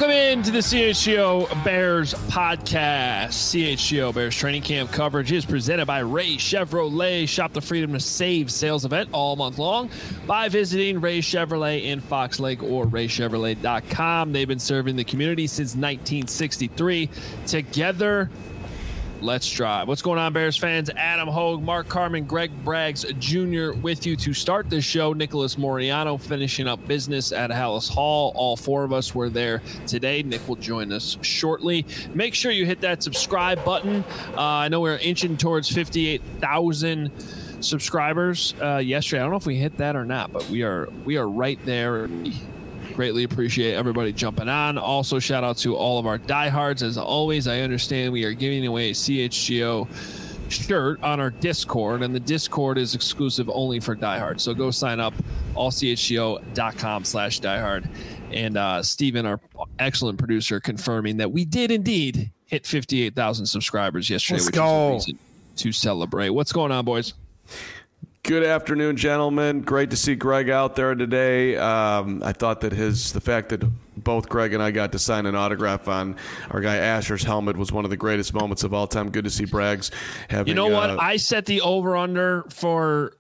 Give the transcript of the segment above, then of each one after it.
Welcome into the CHGO Bears podcast. CHGO Bears training camp coverage is presented by Ray Chevrolet. Shop the Freedom to Save sales event all month long by visiting Ray Chevrolet in Fox Lake or raychevrolet.com. They've been serving the community since 1963. Together, let's drive. What's going on, Bears fans? Adam Hogue, Mark Carman, Greg Braggs Jr. with you to start this show. Nicholas Moriano finishing up business at Hallis Hall. All four of us were there today. Nick will join us shortly. Make sure you hit that subscribe button. I know we're inching towards 58,000 subscribers yesterday. I don't know if we hit that or not, but we are right there. Greatly appreciate everybody jumping on. Also, shout out to all of our diehards. As always, I understand we are giving away a CHGO shirt on our Discord, and the Discord is exclusive only for diehards. So go sign up, allchgo.com/diehard. And Steven, our excellent producer, confirming that we did indeed hit 58,000 subscribers yesterday, which is a reason to celebrate. What's going on, boys? Good afternoon, gentlemen. Great to see Greg out there today. I thought that the fact that both Greg and I got to sign an autograph on our guy Asher's helmet was one of the greatest moments of all time. Good to see Braggs having. You know what? I set the over/under for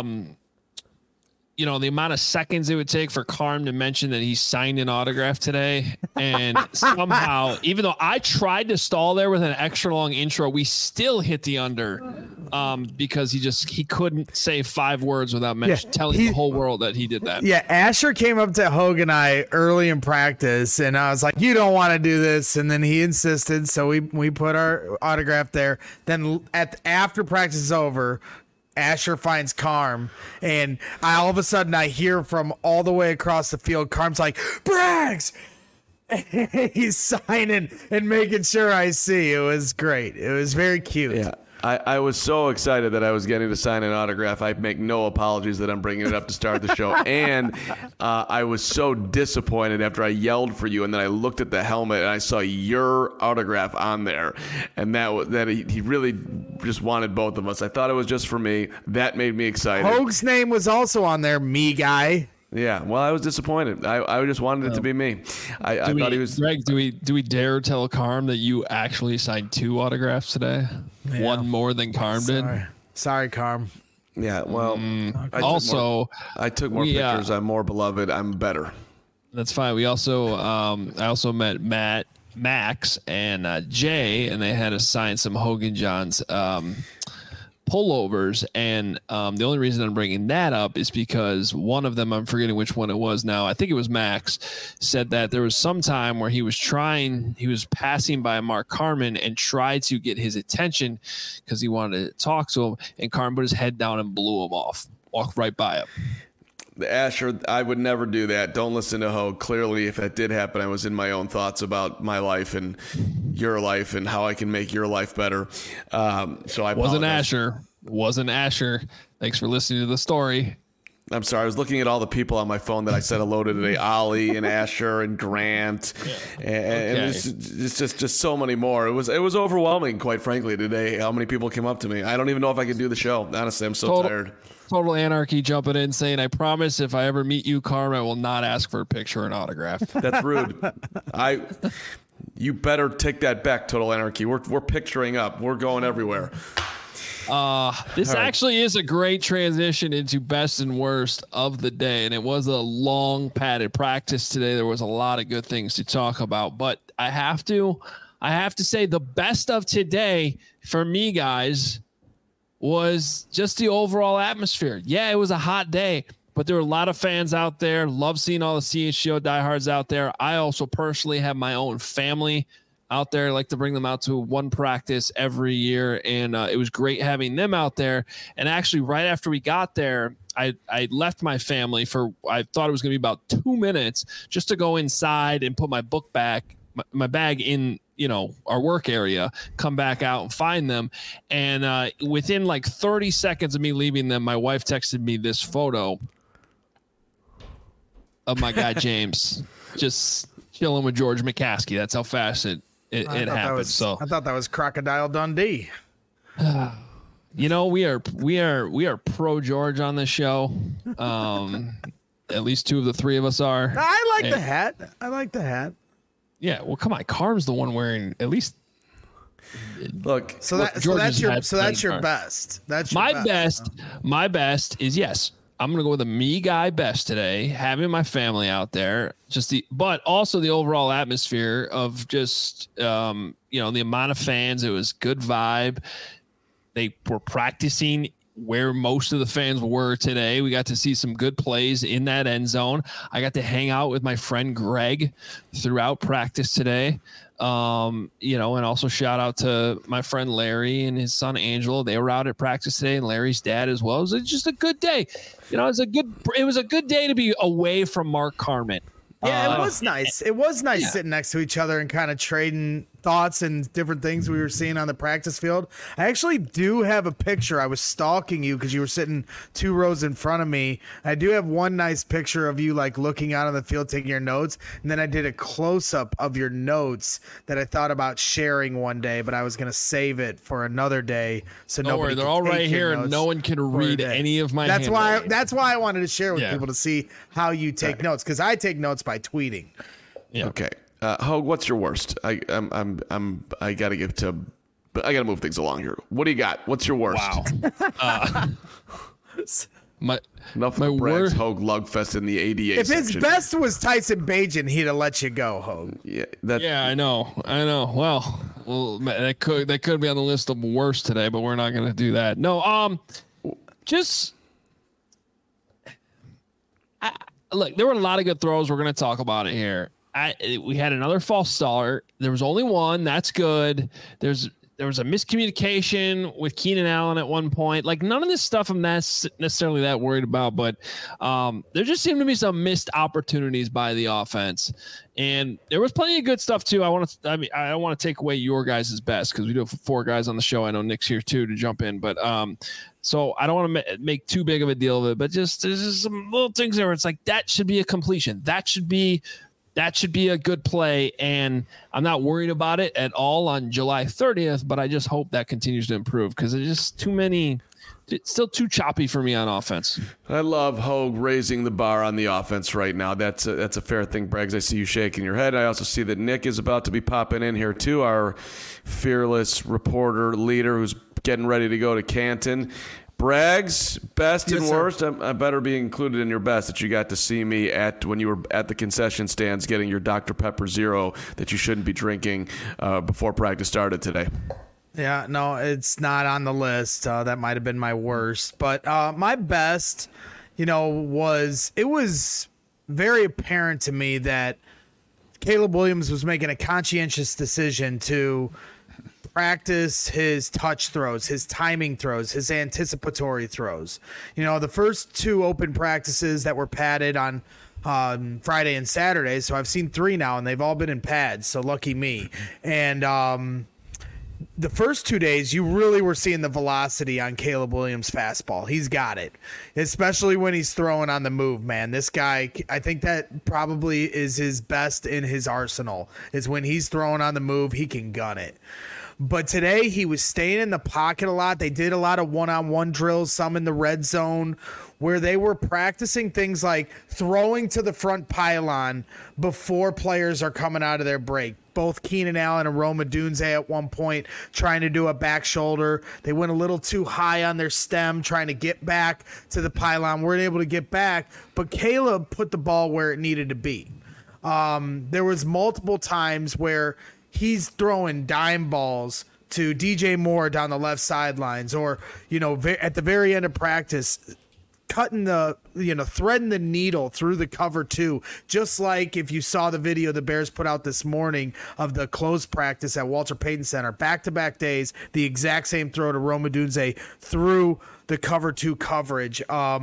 the amount of seconds it would take for Carm to mention that he signed an autograph today. And somehow, even though I tried to stall there with an extra long intro, we still hit the under because he couldn't say 5 words without telling the whole world that he did that. Yeah, Asher came up to Hogue and I early in practice, and I was like, you don't want to do this. And then he insisted, so we put our autograph there. Then after practice is over, Asher finds Carm, and all of a sudden I hear from all the way across the field, Carm's like, Braggs! He's signing and making sure I see. It was great. It was very cute. Yeah. I was so excited that I was getting to sign an autograph. I make no apologies that I'm bringing it up to start the show. And I was so disappointed after I yelled for you, and then I looked at the helmet and I saw your autograph on there, and that he really just wanted both of us. I thought it was just for me. That made me excited. Hogue's name was also on there, me guy. Yeah, well, I was disappointed. I just wanted it to be me. I thought he was. Greg, do we dare tell Carm that you actually signed 2 autographs today? Yeah. One more than Carm did. Sorry, Carm. Yeah, well. I took more pictures. I'm more beloved. I'm better. That's fine. We also I also met Max and Jay, and they had to sign some Hogan Johns pullovers, and the only reason I'm bringing that up is because one of them, I'm forgetting which one it was now, I think it was Max, said that there was some time where he was passing by Mark Carman and tried to get his attention because he wanted to talk to him, and Carman put his head down and blew him off, walked right by him. Asher, I would never do that. Don't listen to Hogue. Clearly, if that did happen, I was in my own thoughts about my life and your life and how I can make your life better. So I apologize. Wasn't Asher. Thanks for listening to the story. I'm sorry. I was looking at all the people on my phone that I said hello to today. Ollie and Asher and Grant. And it's just so many more. It was overwhelming, quite frankly, today, how many people came up to me. I don't even know if I could do the show. Honestly, I'm so tired. Total Anarchy jumping in saying, I promise if I ever meet you, Carm, I will not ask for a picture or an autograph. That's rude. You better take that back, Total Anarchy. We're picturing up. We're going everywhere. This actually is a great transition into best and worst of the day, and it was a long padded practice today. There was a lot of good things to talk about, but I have to say the best of today for me, guys, was just the overall atmosphere. Yeah, it was a hot day, but there were a lot of fans out there. Love seeing all the CHGO diehards out there. I also personally have my own family out there. I like to bring them out to one practice every year, and it was great having them out there. And actually, right after we got there, I left my family I thought it was going to be about 2 minutes just to go inside and put my book back, my bag in, our work area, come back out and find them. And within like 30 seconds of me leaving them, my wife texted me this photo of my guy James just chilling with George McCaskey. That's how fast it happened. I thought that was Crocodile Dundee. We are pro George on this show. At least 2 of the 3 of us are. I like the hat. Yeah, well, come on. Carm's the one wearing at least. Look, So that's your best. That's your my best. My best is yes. I'm gonna go with a me guy best today. Having my family out there, but also the overall atmosphere of just the amount of fans. It was good vibe. They were practicing where most of the fans were today. We got to see some good plays in that end zone. I got to hang out with my friend Greg throughout practice today. And also shout out to my friend Larry and his son Angelo. They were out at practice today, and Larry's dad as well. It was just a good day. It was a good day to be away from Mark Carman. Yeah, it was nice. It was nice sitting next to each other and kind of trading thoughts and different things we were seeing on the practice field. I actually do have a picture. I was stalking you because you were sitting 2 rows in front of me. I do have one nice picture of you like looking out on the field, taking your notes. And then I did a close up of your notes that I thought about sharing one day, but I was going to save it for another day. So don't worry, they're all right here and no one can read any of my That's why I wanted to share with people to see how you take notes, because I take notes by tweeting. Yeah. Okay. Hogue, what's your worst? I gotta move things along here. What do you got? What's your worst? Wow. Enough of Bragg's Hogue Lugfest in the ADA If his best was Tyson Bagent, he'd have let you go, Hogue. Yeah, I know. Well, that could be on the list of worst today, but we're not going to do that. No, look, there were a lot of good throws. We're going to talk about it here. We had another false start. There was only one. That's good. There was a miscommunication with Keenan Allen at one point. Like, none of this stuff I'm not necessarily that worried about, but there just seemed to be some missed opportunities by the offense. And there was plenty of good stuff too. I don't want to take away your guys' best, because we do have 4 guys on the show. I know Nick's here too to jump in, but so I don't want to make too big of a deal of it, but there's just some little things there where it's like, that should be a completion. That should be a good play, and I'm not worried about it at all on July 30th, but I just hope that continues to improve, because there's just too many. It's still too choppy for me on offense. I love Hogue raising the bar on the offense right now. That's a fair thing, Braggs. I see you shaking your head. I also see that Nick is about to be popping in here too, our fearless reporter leader who's getting ready to go to Canton. Braggs, best and worst. I better be included in your best that you got to see me when you were at the concession stands getting your Dr. Pepper Zero that you shouldn't be drinking before practice started today. Yeah, no, it's not on the list. That might have been my worst. But my best, was very apparent to me that Caleb Williams was making a conscientious decision to practice his touch throws, his timing throws, his anticipatory throws. The first 2 open practices that were padded on Friday and Saturday, so I've seen 3 now, and they've all been in pads, so lucky me. And the first 2 days, you really were seeing the velocity on Caleb Williams' fastball. He's got it, especially when he's throwing on the move, man. This guy, I think that probably is his best in his arsenal, is when he's throwing on the move, he can gun it. But today he was staying in the pocket a lot. They did a lot of one-on-one drills, some in the red zone, where they were practicing things like throwing to the front pylon before players are coming out of their break. Both Keenan Allen and Rome Odunze at one point trying to do a back shoulder. They went a little too high on their stem trying to get back to the pylon. Weren't able to get back, but Caleb put the ball where it needed to be. There was multiple times where he's throwing dime balls to DJ Moore down the left sidelines, or, at the very end of practice, cutting threading the needle through the cover 2, just like if you saw the video the Bears put out this morning of the closed practice at Walter Payton Center, back-to-back days, the exact same throw to Rome Odunze through the cover 2 coverage.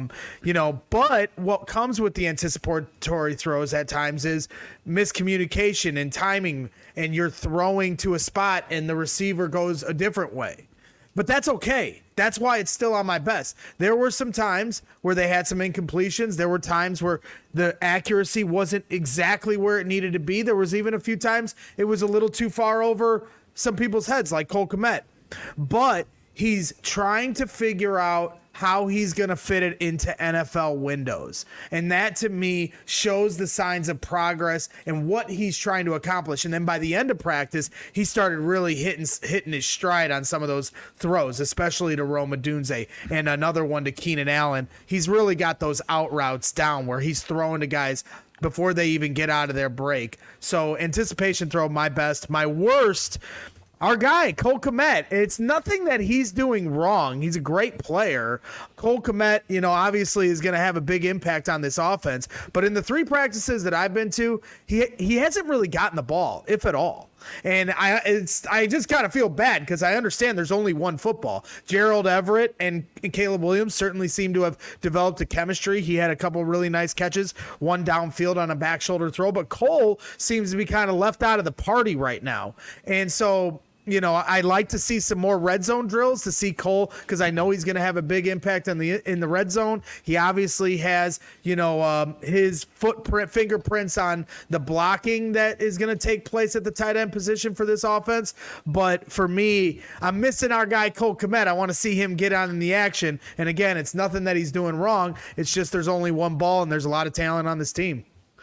But what comes with the anticipatory throws at times is miscommunication and timing, and you're throwing to a spot and the receiver goes a different way. But that's okay. That's why it's still on my best. There were some times where they had some incompletions. There were times where the accuracy wasn't exactly where it needed to be. There was even a few times it was a little too far over some people's heads, like Cole Kmet. But he's trying to figure out how he's going to fit it into NFL windows. And that to me shows the signs of progress and what he's trying to accomplish. And then by the end of practice, he started really hitting his stride on some of those throws, especially to Rome Odunze and another one to Keenan Allen. He's really got those out routes down where he's throwing to guys before they even get out of their break. So anticipation throw, my best. My worst, our guy, Cole Kmet. It's nothing that he's doing wrong. He's a great player. Cole Kmet, obviously is going to have a big impact on this offense. But in the 3 practices that I've been to, he hasn't really gotten the ball, if at all. And I just kind of feel bad because I understand there's only one football. Gerald Everett and Caleb Williams certainly seem to have developed a chemistry. He had a couple really nice catches, one downfield on a back shoulder throw, but Cole seems to be kind of left out of the party right now. And so, I'd like to see some more red zone drills to see Cole, because I know he's going to have a big impact in the red zone. He obviously has, his fingerprints on the blocking that is going to take place at the tight end position for this offense. But for me, I'm missing our guy Cole Kmet. I want to see him get on in the action. And again, it's nothing that he's doing wrong. It's just there's only one ball and there's a lot of talent on this team.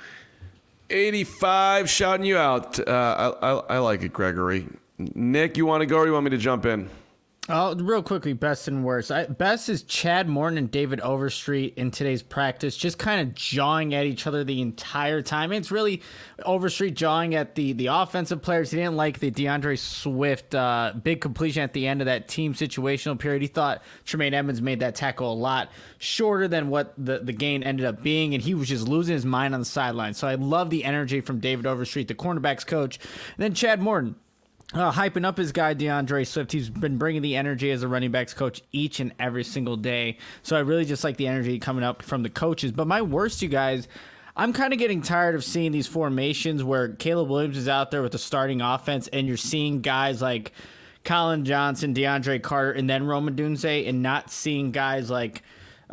85 shouting you out. I like it, Gregory. Nick, you want to go or you want me to jump in? Real quickly, best and worst. Best is Chad Morton and David Overstreet in today's practice, just kind of jawing at each other the entire time. It's really Overstreet jawing at the offensive players. He didn't like the DeAndre Swift big completion at the end of that team situational period. He thought Tremaine Edmonds made that tackle a lot shorter than what the gain ended up being, and he was just losing his mind on the sideline. So I love the energy from David Overstreet, the cornerbacks coach. And then Chad Morton. Hyping up his guy DeAndre Swift. He's been bringing the energy as a running backs coach each and every single day. So I really just like the energy coming up from the coaches. But my worst, you guys, I'm kind of getting tired of seeing these formations where Caleb Williams is out there with the starting offense and you're seeing guys like Colin Johnson, DeAndre Carter, and then Rome Odunze, and not seeing guys like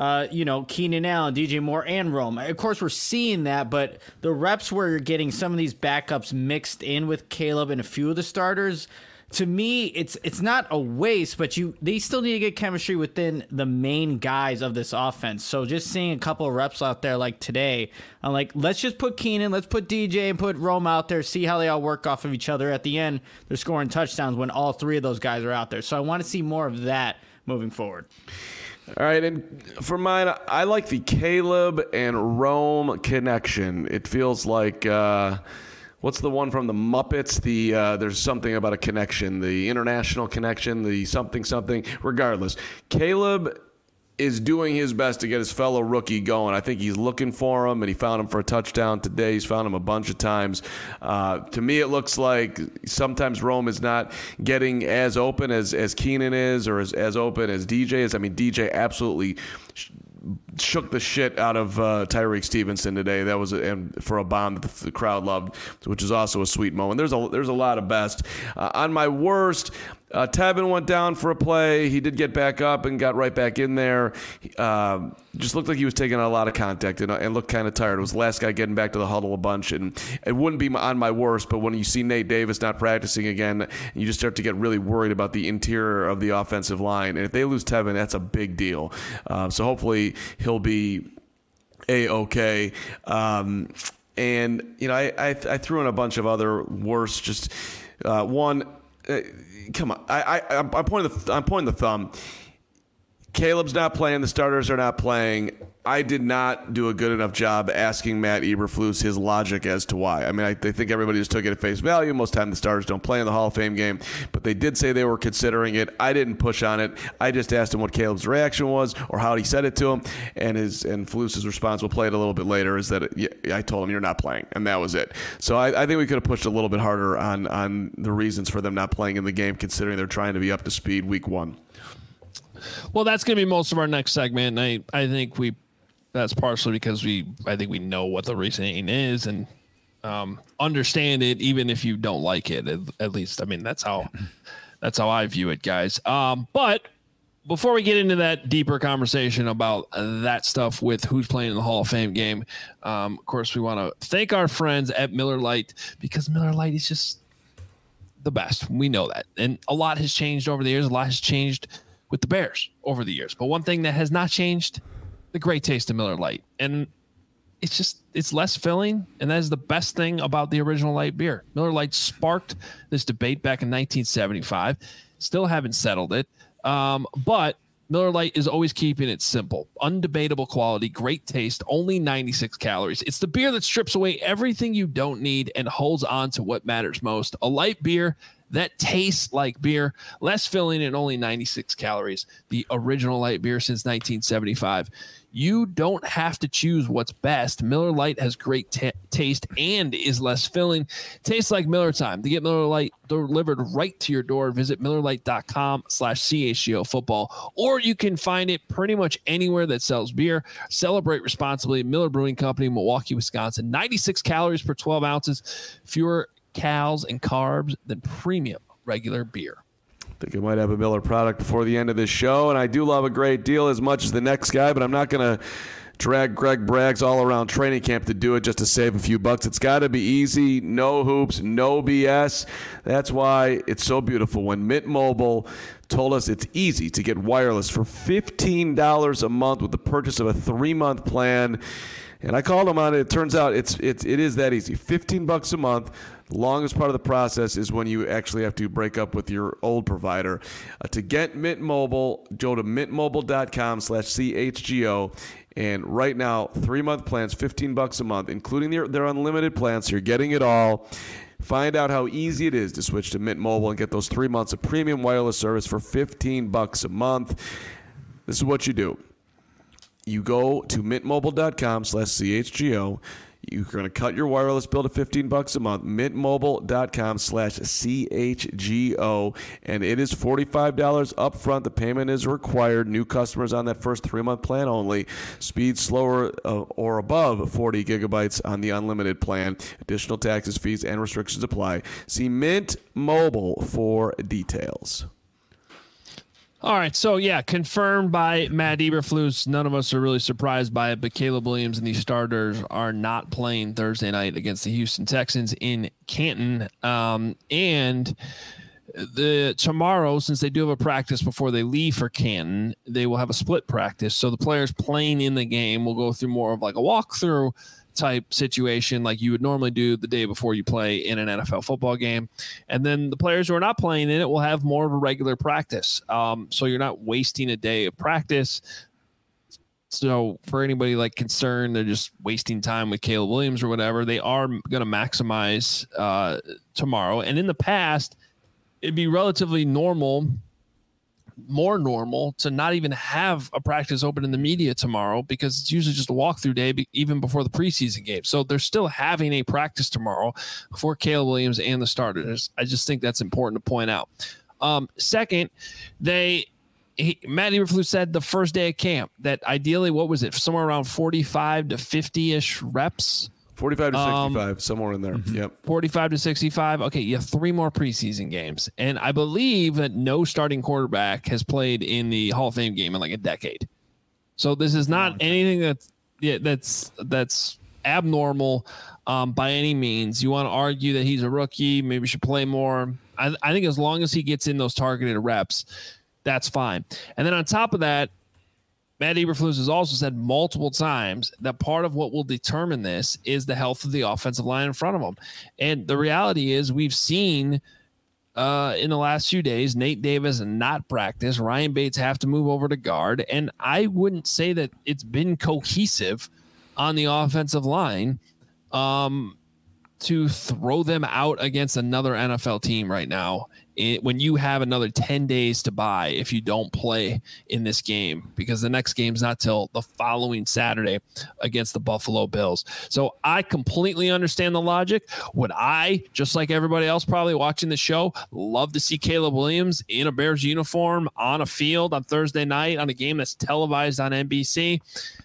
Keenan Allen, DJ Moore, and Rome. Of course, we're seeing that, but the reps where you're getting some of these backups mixed in with Caleb and a few of the starters, to me, it's not a waste, but they still need to get chemistry within the main guys of this offense. So just seeing a couple of reps out there like today, I'm like, let's just put Keenan, let's put DJ and put Rome out there, see how they all work off of each other. At the end, they're scoring touchdowns when all 3 of those guys are out there. So I want to see more of that moving forward. All right, and for mine, I like the Caleb and Rome connection. It feels like, what's the one from the Muppets? There's something about a connection, the international connection, the something. Regardless, Caleb is doing his best to get his fellow rookie going. I think he's looking for him, and he found him for a touchdown today. He's found him a bunch of times. To me, it looks like sometimes Rome is not getting as open as Keenan is, or as open as DJ is. I mean, DJ absolutely shook the shit out of Tyreek Stevenson today. That was for a bomb that the crowd loved, which is also a sweet moment. There's a lot of best. On my worst, Tevin went down for a play. He did get back up and got right back in there. Just looked like he was taking a lot of contact and looked kind of tired. It was the last guy getting back to the huddle a bunch, and it wouldn't be on my worst, but when you see Nate Davis not practicing again, you just start to get really worried about the interior of the offensive line. And if they lose Tevin, that's a big deal. So hopefully he'll be A-okay. And, I threw in a bunch of other worse, just one... come on, I'm pointing the thumb. Caleb's not playing. The starters are not playing. I did not do a good enough job asking Matt Eberflus his logic as to why. I mean, I think everybody just took it at face value. Most of the time the starters don't play in the Hall of Fame game, but they did say they were considering it. I didn't push on it. I just asked him what Caleb's reaction was or how he said it to him, and Flus's response, we'll play it a little bit later, is that I told him you're not playing, and that was it. So I think we could have pushed a little bit harder on the reasons for them not playing in the game, considering they're trying to be up to speed week 1. Well, that's going to be most of our next segment. And I think that's partially because I think we know what the reasoning is and understand it, even if you don't like it. At least, I mean, that's how I view it, guys. But before we get into that deeper conversation about that stuff with who's playing in the Hall of Fame game, of course, we want to thank our friends at Miller Lite, because Miller Lite is just the best. We know that. And a lot has changed over the years. A lot has changed with the Bears over the years. But one thing that has not changed, the great taste of Miller Lite. And it's less filling, and that is the best thing about the original light beer. Miller Lite sparked this debate back in 1975. Still haven't settled it. But Miller Lite is always keeping it simple. Undebatable quality, great taste, only 96 calories. It's the beer that strips away everything you don't need and holds on to what matters most. A light beer that tastes like beer, less filling and only 96 calories. The original light beer since 1975. You don't have to choose what's best. Miller Lite has great taste and is less filling. Tastes like Miller time. To get Miller Lite delivered right to your door, visit MillerLite.com/CHGO football, or you can find it pretty much anywhere that sells beer. Celebrate responsibly. Miller Brewing Company, Milwaukee, Wisconsin. 96 calories per 12 ounces. Fewer calories and carbs than premium regular beer. I think I might have a Miller product before the end of this show, and I do love a great deal as much as the next guy, but I'm not going to drag Greg Braggs all around training camp to do it just to save a few bucks. It's got to be easy, no hoops, no BS. That's why it's so beautiful when Mint Mobile told us it's easy to get wireless for $15 a month with the purchase of a 3-month plan. And I called them on it. It turns out it is that easy. $15 a month. The longest part of the process is when you actually have to break up with your old provider. To get Mint Mobile, go to mintmobile.com/CHGO. And right now, 3-month plans, $15 a month, including their unlimited plans. So you're getting it all. Find out how easy it is to switch to Mint Mobile and get those 3 months of premium wireless service for $15 a month. This is what you do. You go to mintmobile.com/CHGO. You're going to cut your wireless bill to $15 a month. Mintmobile.com/CHGO. And it is $45 up front. The payment is required. New customers on that first 3-month plan only. Speed slower or above 40 gigabytes on the unlimited plan. Additional taxes, fees, and restrictions apply. See Mint Mobile for details. All right, so yeah, confirmed by Matt Eberflus. None of us are really surprised by it, but Caleb Williams and the starters are not playing Thursday night against the Houston Texans in Canton. And tomorrow, since they do have a practice before they leave for Canton, they will have a split practice. So the players playing in the game will go through more of like a walkthrough type situation like you would normally do the day before you play in an NFL football game. And then the players who are not playing in it will have more of a regular practice. So you're not wasting a day of practice. So for anybody like concerned, they're just wasting time with Caleb Williams or whatever, they are going to maximize tomorrow. And in the past, it'd be relatively more normal to not even have a practice open in the media tomorrow because it's usually just a walkthrough day even before the preseason game. So they're still having a practice tomorrow for Caleb Williams and the starters. I just think that's important to point out. Second, Matt Eberflus said the first day of camp that ideally, what was it? Somewhere around 45 to 50-ish reps. 45 to 65, somewhere in there. Yep. 45 to 65. Okay, you have 3 more preseason games. And I believe that no starting quarterback has played in the Hall of Fame game in like a decade. So this is not anything that's abnormal by any means. You want to argue that he's a rookie, maybe should play more. I think as long as he gets in those targeted reps, that's fine. And then on top of that, Matt Eberflus has also said multiple times that part of what will determine this is the health of the offensive line in front of him. And the reality is we've seen in the last few days, Nate Davis not practice, Ryan Bates have to move over to guard. And I wouldn't say that it's been cohesive on the offensive line to throw them out against another NFL team right now when you have another 10 days to buy if you don't play in this game, because the next game's not till the following Saturday against the Buffalo Bills. So I completely understand the logic. Would I, just like everybody else probably watching the show, love to see Caleb Williams in a Bears uniform on a field on Thursday night on a game that's televised on NBC?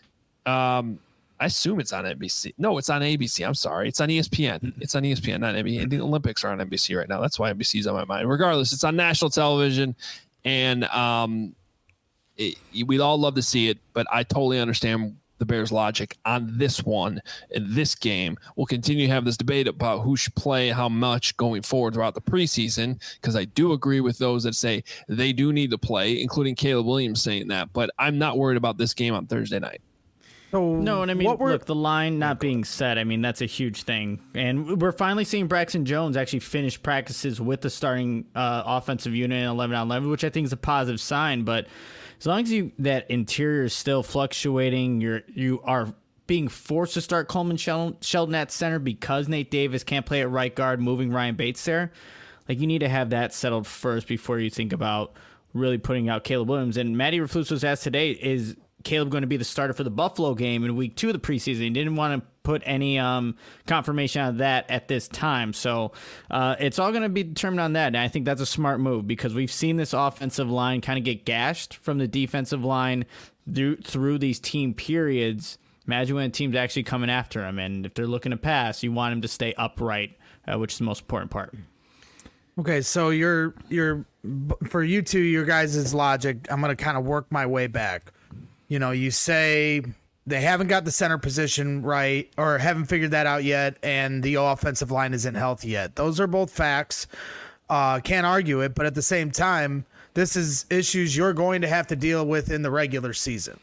I assume it's on NBC. No, it's on ABC. I'm sorry. It's on ESPN. It's on ESPN, not NBC. The Olympics are on NBC right now. That's why NBC's on my mind. Regardless, it's on national television, and we'd all love to see it, but I totally understand the Bears' logic on this one in this game. We'll continue to have this debate about who should play how much going forward throughout the preseason, because I do agree with those that say they do need to play, including Caleb Williams saying that. But I'm not worried about this game on Thursday night. No, and I mean, look, the line not being set, I mean, that's a huge thing. And we're finally seeing Braxton Jones actually finish practices with the starting offensive unit in 11-on-11, which I think is a positive sign. But as long as that interior is still fluctuating, you are being forced to start Coleman Shelton at center because Nate Davis can't play at right guard, moving Ryan Bates there. Like, you need to have that settled first before you think about really putting out Caleb Williams. And Matty Raflus was asked today, is Caleb going to be the starter for the Buffalo game in week 2 of the preseason? He didn't want to put any confirmation on that at this time. So it's all going to be determined on that. And I think that's a smart move because we've seen this offensive line kind of get gashed from the defensive line through these team periods. Imagine when a team's actually coming after him. And if they're looking to pass, you want him to stay upright, which is the most important part. Okay, so you're for you two, your guys' logic, I'm going to kind of work my way back. You know, you say they haven't got the center position right or haven't figured that out yet, and the offensive line isn't healthy yet. Those are both facts. Can't argue it, but at the same time, this is issues you're going to have to deal with in the regular season.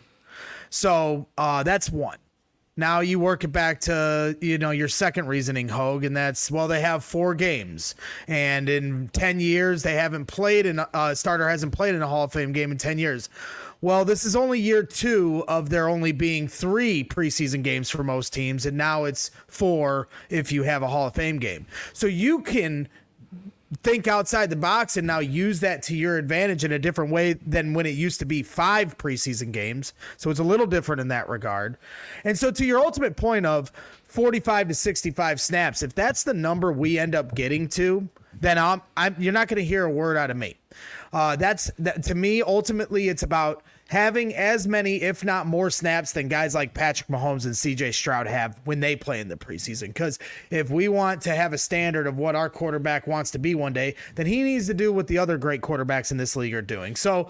So that's one. Now you work it back to, your second reasoning, Hogue, and that's, well, they have 4 games. And in 10 years, they haven't played starter hasn't played in a Hall of Fame game in 10 years. Well, this is only year 2 of there only being 3 preseason games for most teams, and now it's 4 if you have a Hall of Fame game. So you can think outside the box and now use that to your advantage in a different way than when it used to be 5 preseason games. So it's a little different in that regard. And so to your ultimate point of 45 to 65 snaps, if that's the number we end up getting to, then you're not going to hear a word out of me. To me, ultimately, it's about having as many, if not more, snaps than guys like Patrick Mahomes and CJ Stroud have when they play in the preseason. Because if we want to have a standard of what our quarterback wants to be one day, then he needs to do what the other great quarterbacks in this league are doing. So,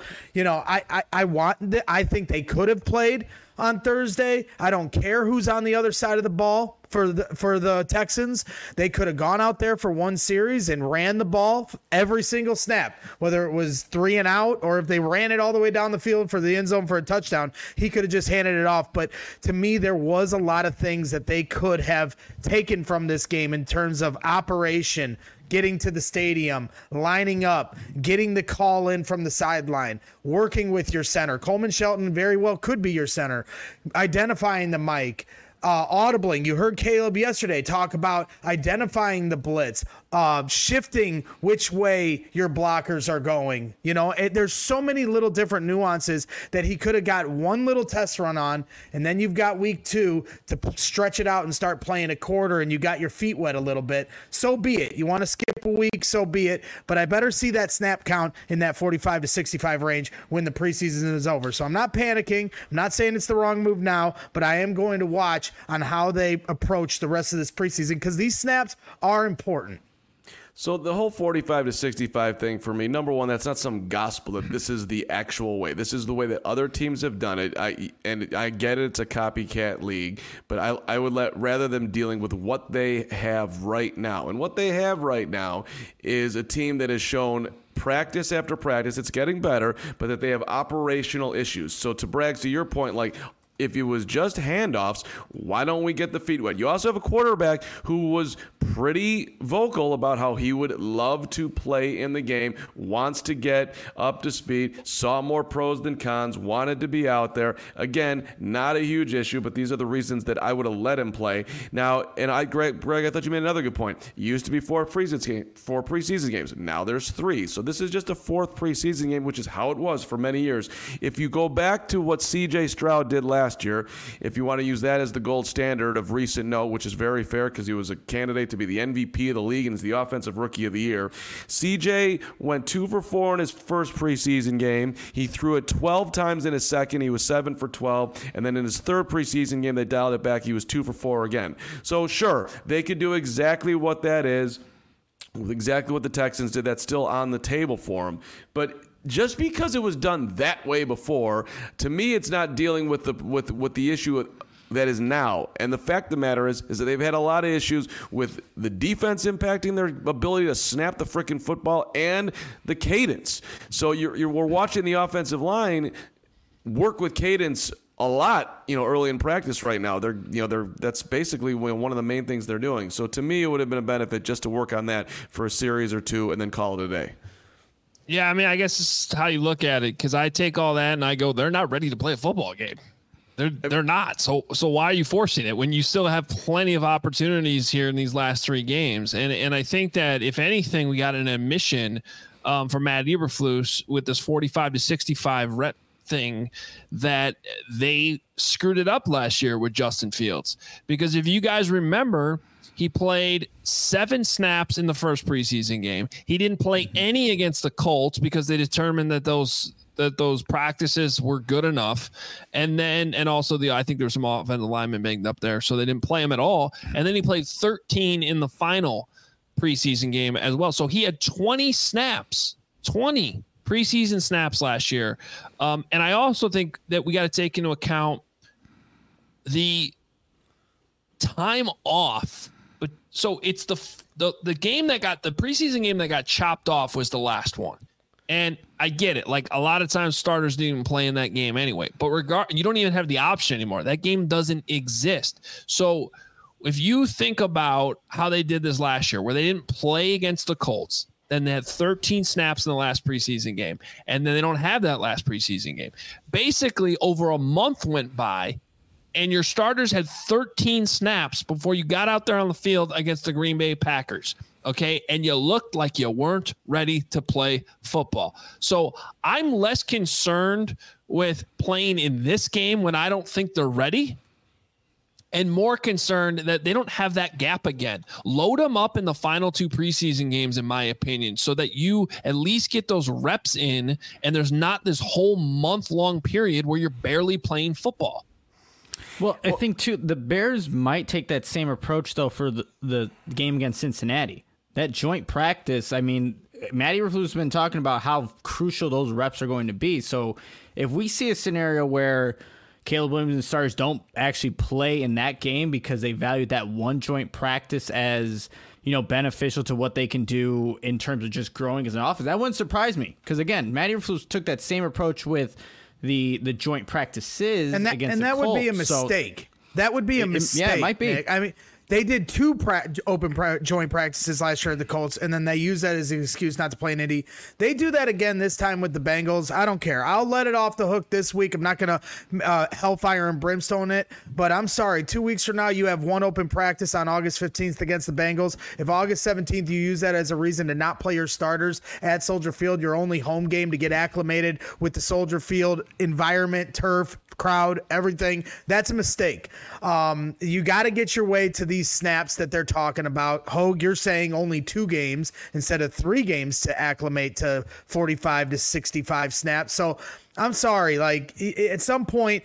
I think they could have played on Thursday. I don't care who's on the other side of the ball for the Texans. They could have gone out there for one series and ran the ball every single snap, whether it was 3 and out or if they ran it all the way down the field for the end zone for a touchdown. He could have just handed it off. But to me, there was a lot of things that they could have taken from this game in terms of operation, getting to the stadium, lining up, getting the call in from the sideline, working with your center. Coleman Shelton very well could be your center, identifying the mic, audibling. You heard Caleb yesterday talk about identifying the blitz, shifting which way your blockers are going. There's so many little different nuances that he could have got one little test run on, and then you've got week 2 to stretch it out and start playing a quarter, and you got your feet wet a little bit. So be it. You want to skip a week, so be it. But I better see that snap count in that 45 to 65 range when the preseason is over. So I'm not panicking. I'm not saying it's the wrong move now, but I am going to watch on how they approach the rest of this preseason because these snaps are important. So the whole 45 to 65 thing for me, number one, that's not some gospel that this is the actual way. This is the way that other teams have done it. I get it, it's a copycat league, but I would rather them dealing with what they have right now. And what they have right now is a team that has shown practice after practice, it's getting better, but that they have operational issues. So to Braggs, to your point, if it was just handoffs, why don't we get the feet wet? You also have a quarterback who was pretty vocal about how he would love to play in the game, wants to get up to speed, saw more pros than cons, wanted to be out there. Again, not a huge issue, but these are the reasons that I would have let him play. Now, Greg, I thought you made another good point. It used to be 4 preseason games. Now there's 3. So this is just a 4th preseason game, which is how it was for many years. If you go back to what C.J. Stroud did last year, if you want to use that as the gold standard of recent note, which is very fair because he was a candidate to be the MVP of the league and is the offensive rookie of the year. CJ went 2 for 4 in his first preseason game. He threw it 12 times in his second. He was 7 for 12. And then in his third preseason game, they dialed it back. He was 2 for 4 again. So sure, they could do exactly what that is, exactly what the Texans did. That's still on the table for him. But just because it was done that way before, to me, it's not dealing with the issue that is now. And the fact of the matter is that they've had a lot of issues with the defense impacting their ability to snap the freaking football and the cadence. So we're watching the offensive line work with cadence a lot, early in practice right now. That's basically one of the main things they're doing. So to me, it would have been a benefit just to work on that for a series or two and then call it a day. Yeah, I mean, I guess it's how you look at it, because I take all that and I go, they're not ready to play a football game. They're not. So why are you forcing it when you still have plenty of opportunities here in these last 3 games? And I think that if anything, we got an admission from Matt Eberflus with this 45 to 65 rep thing that they screwed it up last year with Justin Fields. Because if you guys remember, he played 7 snaps in the first preseason game. He didn't play any against the Colts because they determined that those practices were good enough. And also I think there was some offensive linemen banged up there, so they didn't play him at all. And then he played 13 in the final preseason game as well. So he had 20 preseason snaps last year. And I also think that we got to take into account the time off. But so it's the game that got the preseason game that got chopped off was the last one. And I get it. Like, a lot of times starters didn't even play in that game anyway. But you don't even have the option anymore. That game doesn't exist. So if you think about how they did this last year, where they didn't play against the Colts, then they had 13 snaps in the last preseason game, and then they don't have that last preseason game. Basically, over a month went by, and your starters had 13 snaps before you got out there on the field against the Green Bay Packers. Okay, and you looked like you weren't ready to play football. So I'm less concerned with playing in this game when I don't think they're ready, and more concerned that they don't have that gap again. Load them up in the final 2 preseason games, in my opinion, so that you at least get those reps in, and there's not this whole month-long period where you're barely playing football. Well, I think, too, the Bears might take that same approach, though, for the game against Cincinnati. That joint practice, I mean, Matty Eberflus has been talking about how crucial those reps are going to be. So if we see a scenario where Caleb Williams and starters don't actually play in that game because they valued that one joint practice as, beneficial to what they can do in terms of just growing as an offense, that wouldn't surprise me. Because, again, Matty Eberflus took that same approach with the joint practices against the Colts. And that would be a mistake. That would be a mistake. Yeah, it might be. Nick. I mean, they did 2 joint practices last year at the Colts, and then they used that as an excuse not to play in Indy. They do that again this time with the Bengals. I don't care. I'll let it off the hook this week. I'm not going to hellfire and brimstone it, but I'm sorry. 2 weeks from now, you have 1 open practice on August 15th against the Bengals. If August 17th, you use that as a reason to not play your starters at Soldier Field, your only home game to get acclimated with the Soldier Field environment, turf, crowd, everything, that's a mistake. You got to get your way to these snaps that they're talking about. Hogue, you're saying only 2 games instead of 3 games to acclimate to 45 to 65 snaps. So I'm sorry, like, at some point,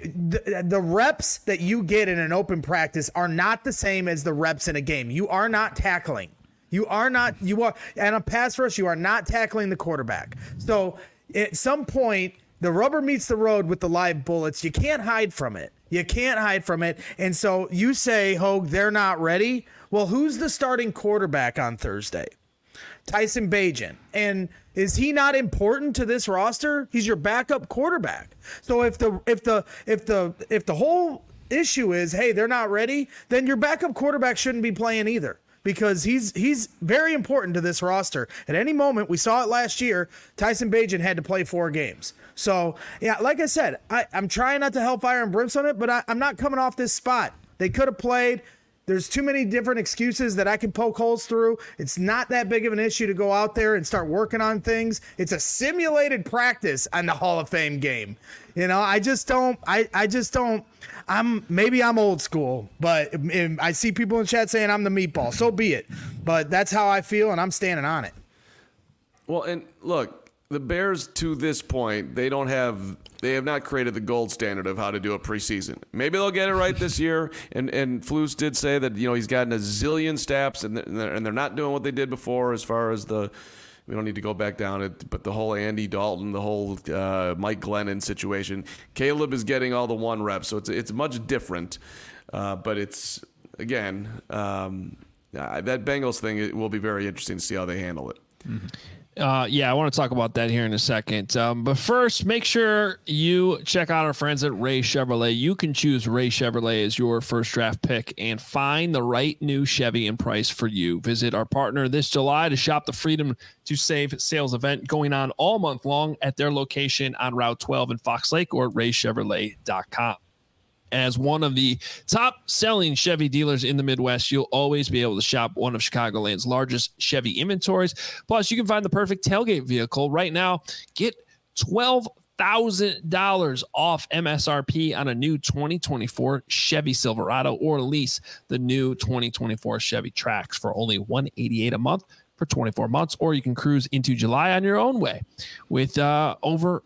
the reps that you get in an open practice are not the same as the reps in a game. You are not tackling. You are, and a pass rush, you are not tackling the quarterback. So at some point, the rubber meets the road with the live bullets. You can't hide from it. And so you say, Hogue, they're not ready. Well, who's the starting quarterback on Thursday? Tyson Bagent. And is he not important to this roster? He's your backup quarterback. So if the whole issue is, hey, they're not ready, then your backup quarterback shouldn't be playing either. Because he's very important to this roster. At any moment, we saw it last year, Tyson Bagent had to play 4 games. So, yeah, like I said, I'm trying not to hellfire and brimstone it, but I'm not coming off this spot. They could have played. There's too many different excuses that I can poke holes through. It's not that big of an issue to go out there and start working on things. It's a simulated practice on the Hall of Fame game. I just don't. Maybe I'm old school, but I see people in chat saying I'm the meatball. So be it. But that's how I feel, and I'm standing on it. Well, and look, the Bears to this point, they have not created the gold standard of how to do a preseason. Maybe they'll get it right this year. And Flus did say that he's gotten a zillion snaps, and they're not doing what they did before as far as the We don't need to go back down it, but the whole Andy Dalton, the whole Mike Glennon situation. Caleb is getting all the 1 rep, so it's much different. But it's, again, that Bengals thing, it will be very interesting to see how they handle it. Mm-hmm. I want to talk about that here in a second. But first, make sure you check out our friends at Ray Chevrolet. You can choose Ray Chevrolet as your first draft pick and find the right new Chevy and price for you. Visit our partner this July to shop the Freedom to Save sales event going on all month long at their location on Route 12 in Fox Lake or raychevrolet.com. As one of the top-selling Chevy dealers in the Midwest, you'll always be able to shop one of Chicagoland's largest Chevy inventories. Plus, you can find the perfect tailgate vehicle. Right now, get $12,000 off MSRP on a new 2024 Chevy Silverado, or lease the new 2024 Chevy Trax for only $188 a month for 24 months, or you can cruise into July on your own way with over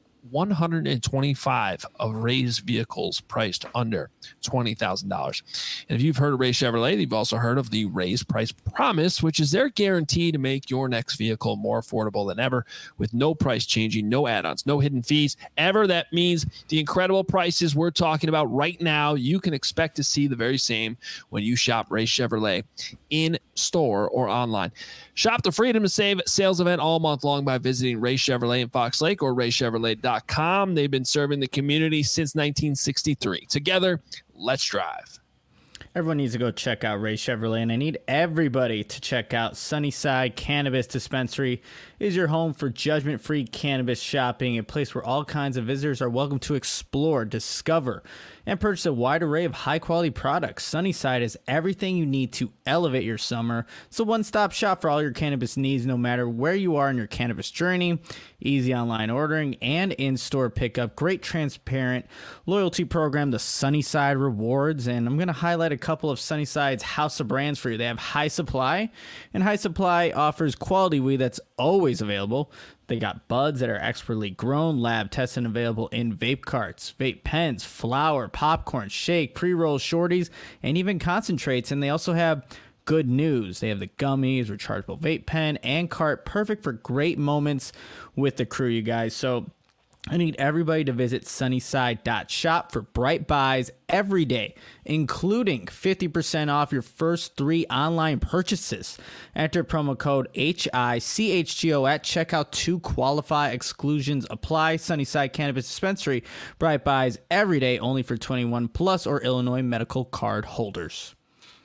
125 of Ray's vehicles priced under $20,000. And if you've heard of Ray Chevrolet, you've also heard of the Ray's Price Promise, which is their guarantee to make your next vehicle more affordable than ever, with no price changing, no add-ons, no hidden fees ever. That means the incredible prices we're talking about right now, you can expect to see the very same when you shop Ray Chevrolet in store or online. Shop the Freedom to Save sales event all month long by visiting Ray Chevrolet in Fox Lake or raychevrolet.com. They've been serving the community since 1963. Together, let's drive. Everyone needs to go check out Ray Chevrolet, and I need everybody to check out Sunnyside Cannabis Dispensary. It is your home for judgment-free cannabis shopping, a place where all kinds of visitors are welcome to explore, discover, and purchase a wide array of high-quality products. Sunnyside is everything you need to elevate your summer. It's a one-stop shop for all your cannabis needs, no matter where you are in your cannabis journey. Easy online ordering and in-store pickup. Great transparent loyalty program, the Sunnyside Rewards. And I'm going to highlight a couple of Sunnyside's house of brands for you. They have High Supply, and High Supply offers quality weed that's always available. They got buds that are expertly grown, lab tested, and available in vape carts, vape pens, flour, popcorn, shake, pre-roll shorties, and even concentrates. And they also have good news. They have the gummies, rechargeable vape pen, and cart, perfect for great moments with the crew, you guys. So I need everybody to visit sunnyside.shop for bright buys every day, including 50% off your first 3 online purchases. Enter promo code HICHGO at checkout to qualify. Exclusions apply. Sunnyside Cannabis Dispensary. Bright buys every day, only for 21 plus or Illinois medical card holders.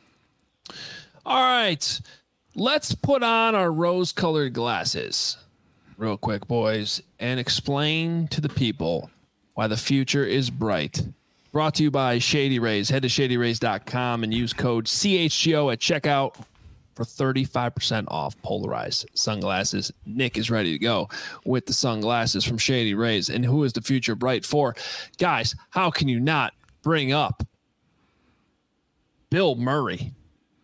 All right, let's put on our rose-colored glasses real quick, boys, and explain to the people why the future is bright. Brought to you by Shady Rays. Head to shadyrays.com and use code CHGO at checkout for 35% off polarized sunglasses. Nick is ready to go with the sunglasses from Shady Rays. And who is the future bright for? Guys, how can you not bring up Bill Murray?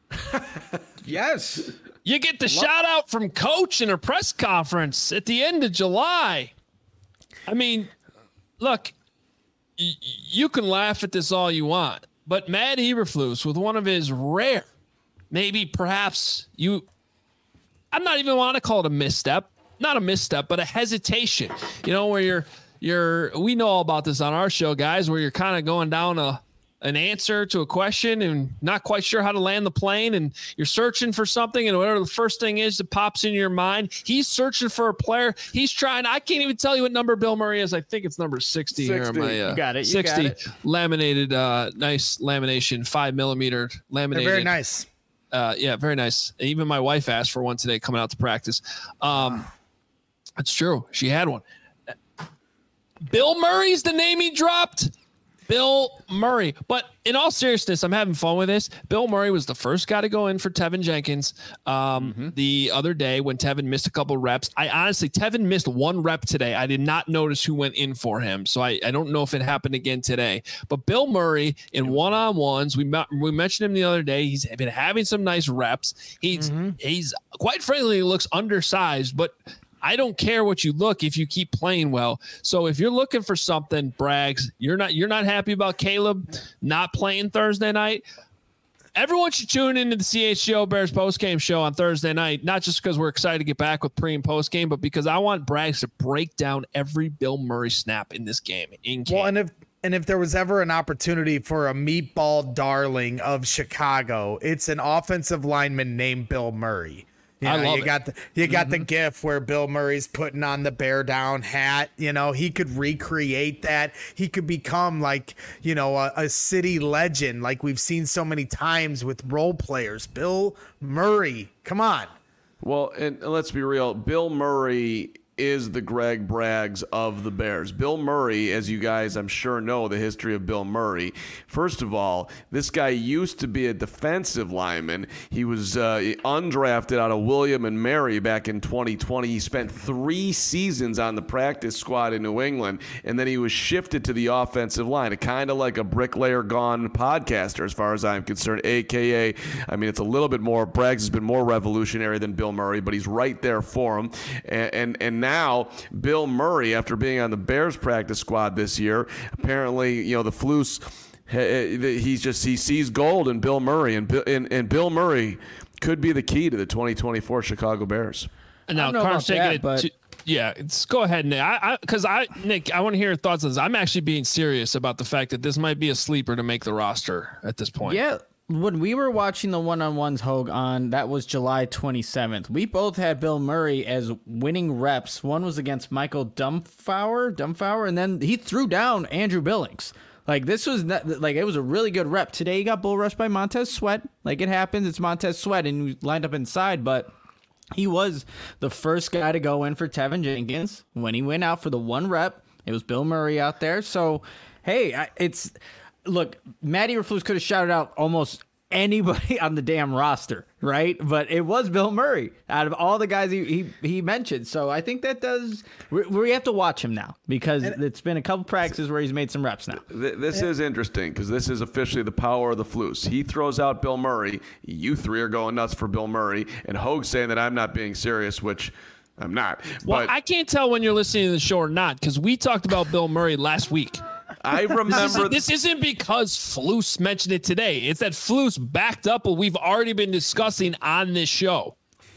Yes. You get the shout out from Coach in a press conference at the end of July. I mean, look, you can laugh at this all you want, but Matt Eberflus, with one of his rare, maybe perhaps I'm not even want to call it a misstep, not a misstep, but a hesitation, where we know all about this on our show, guys, where you're kind of going down an answer to a question and not quite sure how to land the plane, and you're searching for something, and whatever the first thing is that pops into your mind, he's searching for a player. He's trying. I can't even tell you what number Bill Murray is. I think it's number 60 here. You got it. 60 laminated, nice lamination, 5mm laminated. They're very nice. Yeah, very nice. Even my wife asked for one today coming out to practice. It's true. She had one. Bill Murray's the name he dropped. Bill Murray. But in all seriousness, I'm having fun with this. Bill Murray was the first guy to go in for Tevin Jenkins the other day when Tevin missed a couple reps. Tevin missed 1 rep today. I did not notice who went in for him, so I don't know if it happened again today. But Bill Murray in one-on-ones, we mentioned him the other day. He's been having some nice reps. He's quite frankly, he looks undersized, but I don't care what you look if you keep playing well. So if you're looking for something, Braggs, you're not happy about Caleb not playing Thursday night. everyone should tune into the CHGO Bears postgame show on Thursday night, not just because we're excited to get back with pre and postgame, but because I want Braggs to break down every Bill Murray snap in this game. Well, and if there was ever an opportunity for a meatball darling of Chicago, it's an offensive lineman named Bill Murray. You got the gif where Bill Murray's putting on the bear down hat. He could recreate that. He could become like, a city legend like we've seen so many times with role players. Bill Murray, come on. Well, and let's be real. Bill Murray is the Greg Braggs of the Bears. Bill Murray, as you guys I'm sure know the history of Bill Murray. First of all, this guy used to be a defensive lineman. He was undrafted out of William and Mary back in 2020. He spent 3 seasons on the practice squad in New England, and then he was shifted to the offensive line, kind of like a bricklayer gone podcaster as far as I'm concerned, a.k.a. It's a little bit more, Braggs has been more revolutionary than Bill Murray, but he's right there for him. And now Bill Murray, after being on the Bears practice squad this year, apparently, the Flus, he sees gold in Bill Murray, and Bill Murray could be the key to the 2024 Chicago Bears. And now Carm's taking it. Yeah, go ahead, Nick. Nick, I want to hear your thoughts on this. I'm actually being serious about the fact that this might be a sleeper to make the roster at this point. Yeah. When we were watching the one-on-ones, Hogue, that was July 27th, we both had Bill Murray as winning reps. One was against Michael Dumbfauer, and then he threw down Andrew Billings. This was it was a really good rep. Today he got bull rushed by Montez Sweat. It happens, it's Montez Sweat, and he lined up inside, but he was the first guy to go in for Tevin Jenkins. When he went out for the 1 rep, it was Bill Murray out there. So, hey, look, Matty Eberflus could have shouted out almost anybody on the damn roster, right? But it was Bill Murray out of all the guys he mentioned. So I think that we have to watch him now because it's been a couple practices where he's made some reps now. This is interesting because this is officially the power of the Flus. He throws out Bill Murray. You 3 are going nuts for Bill Murray. And Hogue's saying that I'm not being serious, which I'm not. Well, I can't tell when you're listening to the show or not because we talked about Bill Murray last week. I remember this isn't because Flus mentioned it today. It's that Flus backed up what we've already been discussing on this show.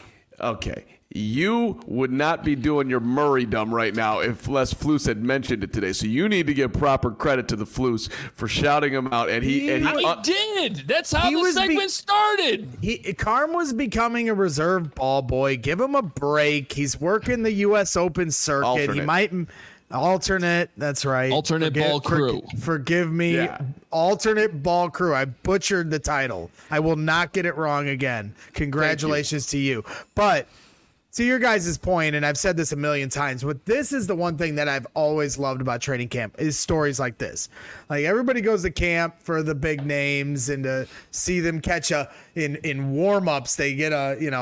Okay. You would not be doing your Murray dumb right now if Les Flus had mentioned it today. So you need to give proper credit to the Flus for shouting him out. And he did. That's how the segment started. Carm was becoming a reserve ball boy. Give him a break. He's working the U.S. Open circuit. Alternate. He might... Alternate, that's right. Ball crew. Forgive me. Yeah. Alternate ball crew. I butchered the title. I will not get it wrong again. Congratulations to you. But to your guys' point, and I've said this a million times, but this is the one thing that I've always loved about training camp is stories like this. Everybody goes to camp for the big names and to see them catch in warm-ups, they get in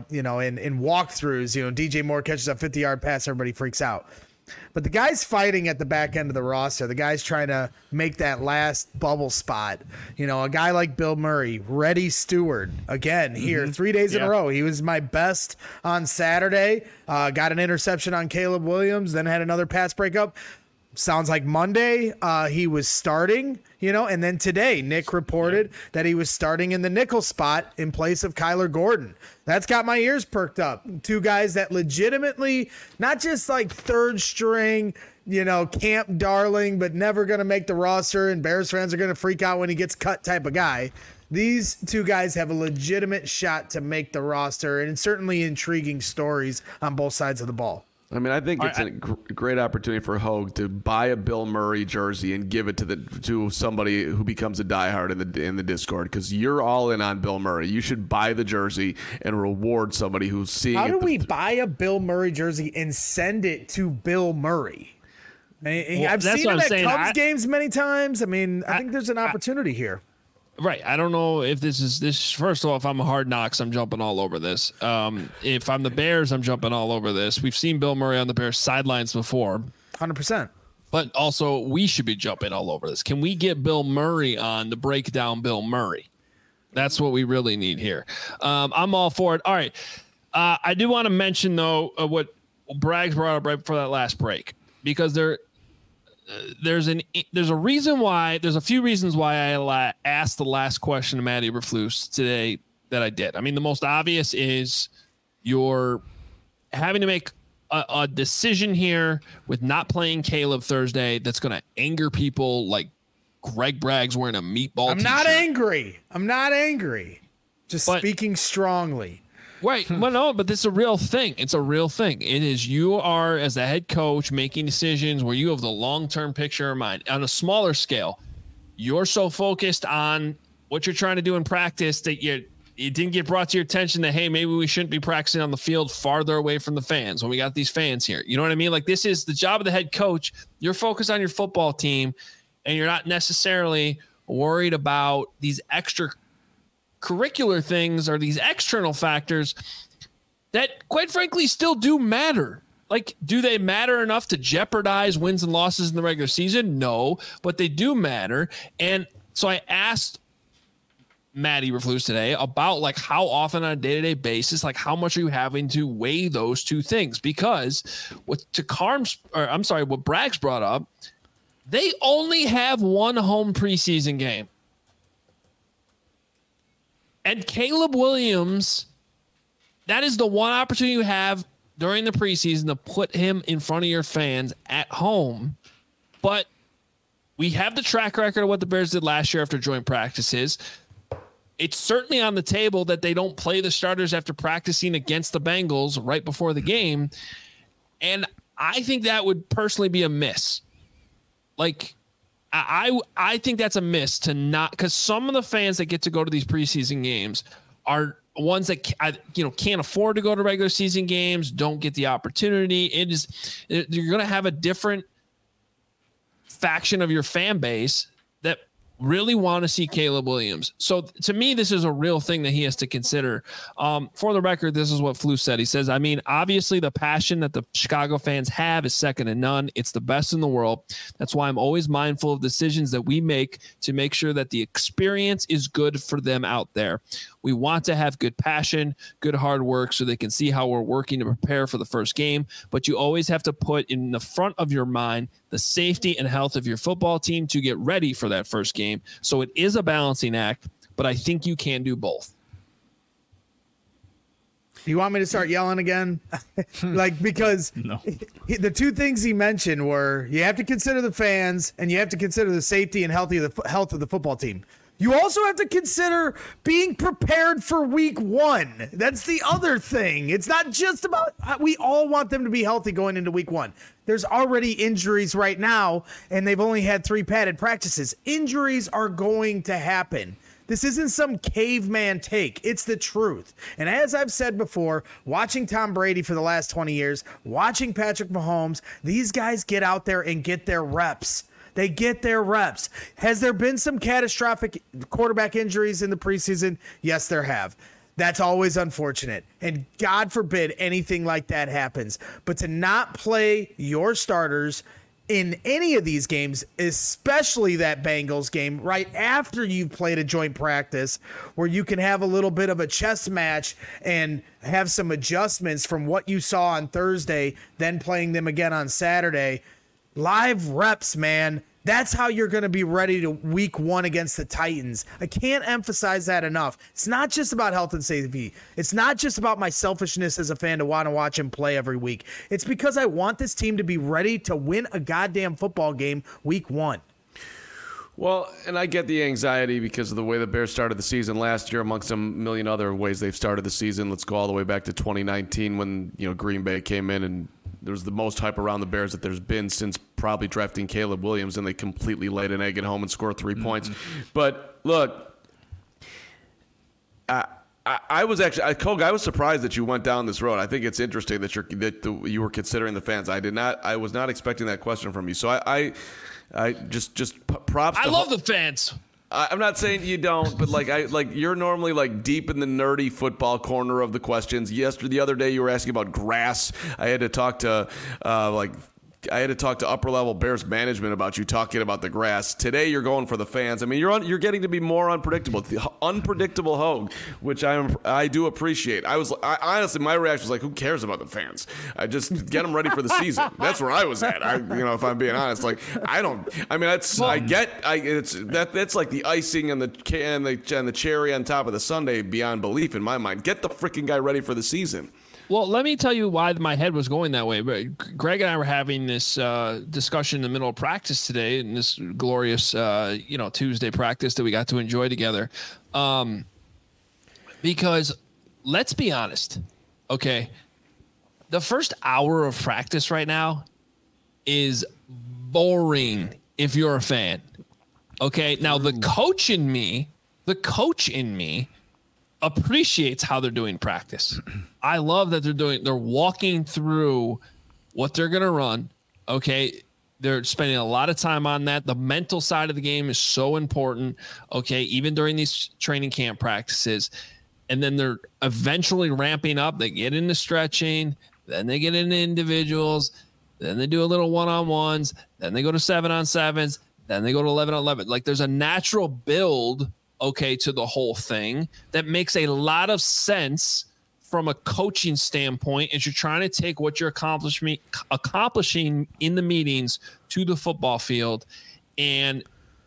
walkthroughs, DJ Moore catches a 50-yard pass, everybody freaks out. But the guys fighting at the back end of the roster, the guys trying to make that last bubble spot, a guy like Bill Murray, Reddy Stewart, again, here 3 days in a row. He was my best on Saturday, got an interception on Caleb Williams, then had another pass breakup. Sounds like Monday he was starting, and then today Nick reported that he was starting in the nickel spot in place of Kyler Gordon. That's got my ears perked up. 2 guys that legitimately, not just like third string, camp darling, but never going to make the roster and Bears fans are going to freak out when he gets cut type of guy. These 2 guys have a legitimate shot to make the roster and certainly intriguing stories on both sides of the ball. I think it's a great opportunity for Hogue to buy a Bill Murray jersey and give it to somebody who becomes a diehard in the Discord because you're all in on Bill Murray. You should buy the jersey and reward somebody who's seeing. How do we buy a Bill Murray jersey and send it to Bill Murray? I've seen him at Cubs games many times. I think there's an opportunity here. Right. I don't know if this is. First of all, if I'm a Hard Knocks, I'm jumping all over this. If I'm the Bears, I'm jumping all over this. We've seen Bill Murray on the Bears sidelines before. 100%. But also, we should be jumping all over this. Can we get Bill Murray on to break down Bill Murray? That's what we really need here. I'm all for it. All right. I do want to mention, though, what Braggs brought up right before that last break, because there's a reason why. There's a few reasons why I asked the last question to Matt Eberflus today that I did. I mean, the most obvious is you're having to make a decision here with not playing Caleb Thursday that's going to anger people like Greg Bragg's wearing a meatball I'm t-shirt. not angry. Just speaking strongly. Right. Well, no, but this is a real thing. It's a real thing. It is, you are, as the head coach, making decisions where you have the long-term picture in mind. On a smaller scale, you're so focused on what you're trying to do in practice that it didn't get brought to your attention that, hey, maybe we shouldn't be practicing on the field farther away from the fans when we got these fans here. You know what I mean? Like, this is the job of the head coach. You're focused on your football team, and you're not necessarily worried about these extracurricular things or these external factors that, quite frankly, still do matter. Like, do they matter enough to jeopardize wins and losses in the regular season? No, but they do matter. And so I asked Matt Eberflus today about, like, how often on a day-to-day basis, like, how much are you having to weigh those two things? Because what Bragg's brought up, they only have one home preseason game. And Caleb Williams, that is the one opportunity you have during the preseason to put him in front of your fans at home. But we have the track record of what the Bears did last year after joint practices. It's certainly on the table that they don't play the starters after practicing against the Bengals right before the game. And I think that would personally be a miss. Like, I think that's a miss to not, because some of the fans that get to go to these preseason games are ones that can't afford to go to regular season games, don't get the opportunity. You're going to have a different faction of your fan base that really want to see Caleb Williams. So to me, this is a real thing that he has to consider. For the record, this is what Flus said. He says, I mean, obviously the passion that the Chicago fans have is second to none. It's the best in the world. That's why I'm always mindful of decisions that we make to make sure that the experience is good for them out there. We want to have good passion, good hard work, so they can see how we're working to prepare for the first game. But you always have to put in the front of your mind the safety and health of your football team to get ready for that first game. So it is a balancing act, but I think you can do both. You want me to start yelling again? Because No. The two things he mentioned were you have to consider the fans and you have to consider the safety and health of the football team. You also have to consider being prepared for week one. That's the other thing. It's not just about, we all want them to be healthy going into week one. There's already injuries right now, and they've only had 3 padded practices. Injuries are going to happen. This isn't some caveman take. It's the truth. And as I've said before, watching Tom Brady for the last 20 years, watching Patrick Mahomes, these guys get out there and get their reps. They get their reps. Has there been some catastrophic quarterback injuries in the preseason? Yes, there have. That's always unfortunate. And God forbid anything like that happens. But to not play your starters in any of these games, especially that Bengals game, right after you've played a joint practice where you can have a little bit of a chess match and have some adjustments from what you saw on Thursday, then playing them again on Saturday. Live reps, man. That's how you're going to be ready to week one against the Titans. I can't emphasize that enough. It's not just about health and safety. It's not just about my selfishness as a fan to want to watch him play every week. It's because I want this team to be ready to win a goddamn football game week one. Well, and I get the anxiety because of the way the Bears started the season last year, amongst a million other ways they've started the season. Let's go all the way back to 2019 when Green Bay came in and there was the most hype around the Bears that there's been since probably drafting Caleb Williams, and they completely laid an egg at home and scored 3 points. But look, I was actually, Koga, I was surprised that you went down this road. I think it's interesting that you were considering the fans. I was not expecting that question from you. So I just props. I love the fans. I'm not saying you don't, but you're normally deep in the nerdy football corner of the questions. The other day you were asking about grass. I had to talk to I had to talk to upper level Bears management about you talking about the grass. Today you're going for the fans. I mean, you're getting to be more unpredictable. The unpredictable Hogue, which I do appreciate. I honestly, my reaction was like, who cares about the fans? I just get them ready for the season. That's where I was at. If I'm being honest, like that's like the icing and the cherry on top of the sundae beyond belief in my mind. Get the freaking guy ready for the season. Well, let me tell you why my head was going that way. But Greg and I were having this discussion in the middle of practice today, in this glorious, Tuesday practice that we got to enjoy together. Because let's be honest, okay, the first hour of practice right now is boring if you're a fan. Okay, now the coach in me appreciates how they're doing practice. I love that they're walking through what they're going to run. Okay. They're spending a lot of time on that. The mental side of the game is so important. Okay. Even during these training camp practices. And then they're eventually ramping up. They get into stretching, then they get into individuals, then they do a little one-on-ones, then they go to 7-on-7s, then they go to 11-on-11. Like there's a natural build, okay, to the whole thing that makes a lot of sense from a coaching standpoint as you're trying to take what you're accomplishing in the meetings to the football field and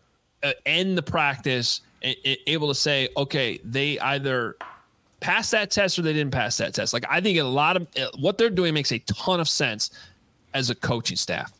end the practice able to say, okay, they either passed that test or they didn't pass that test. Like I think a lot of what they're doing makes a ton of sense as a coaching staff.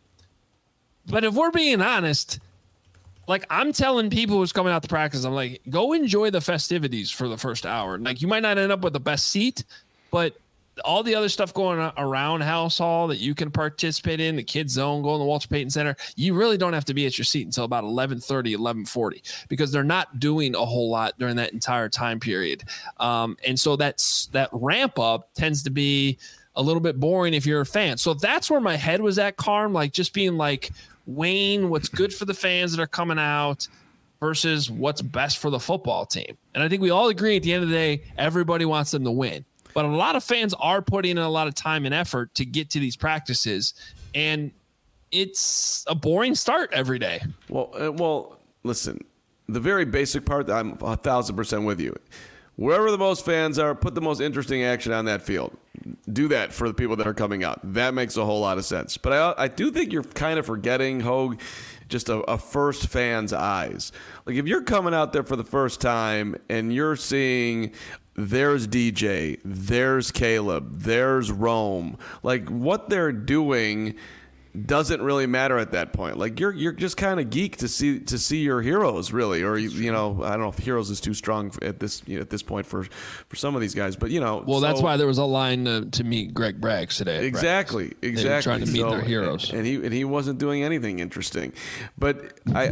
But if we're being honest, like I'm telling people who's coming out to practice, I'm like, go enjoy the festivities for the first hour. Like you might not end up with the best seat, but all the other stuff going around House Hall that you can participate in, the kids zone, go in the Walter Payton Center, you really don't have to be at your seat until about 11:30, 11:40, because they're not doing a whole lot during that entire time period. And so that ramp up tends to be a little bit boring if you're a fan. So that's where my head was at, Carm, like just being like, weighing what's good for the fans that are coming out versus what's best for the football team. And I think we all agree at the end of the day, everybody wants them to win. But a lot of fans are putting in a lot of time and effort to get to these practices, and it's a boring start every day. Well, listen, the very basic part, I'm 1,000% with you. Wherever the most fans are, put the most interesting action on that field. Do that for the people that are coming out. That makes a whole lot of sense. But I do think you're kind of forgetting, Hogue, just a first fan's eyes. Like if you're coming out there for the first time and you're seeing there's DJ, there's Caleb, there's Rome, like what they're doing doesn't really matter at that point. Like you're just kind of geeked to see your heroes, really, or I don't know if heroes is too strong at this point for some of these guys, but Well, that's why there was a line to meet Greg Braggs today. Exactly. They were trying to meet their heroes, and he wasn't doing anything interesting. But I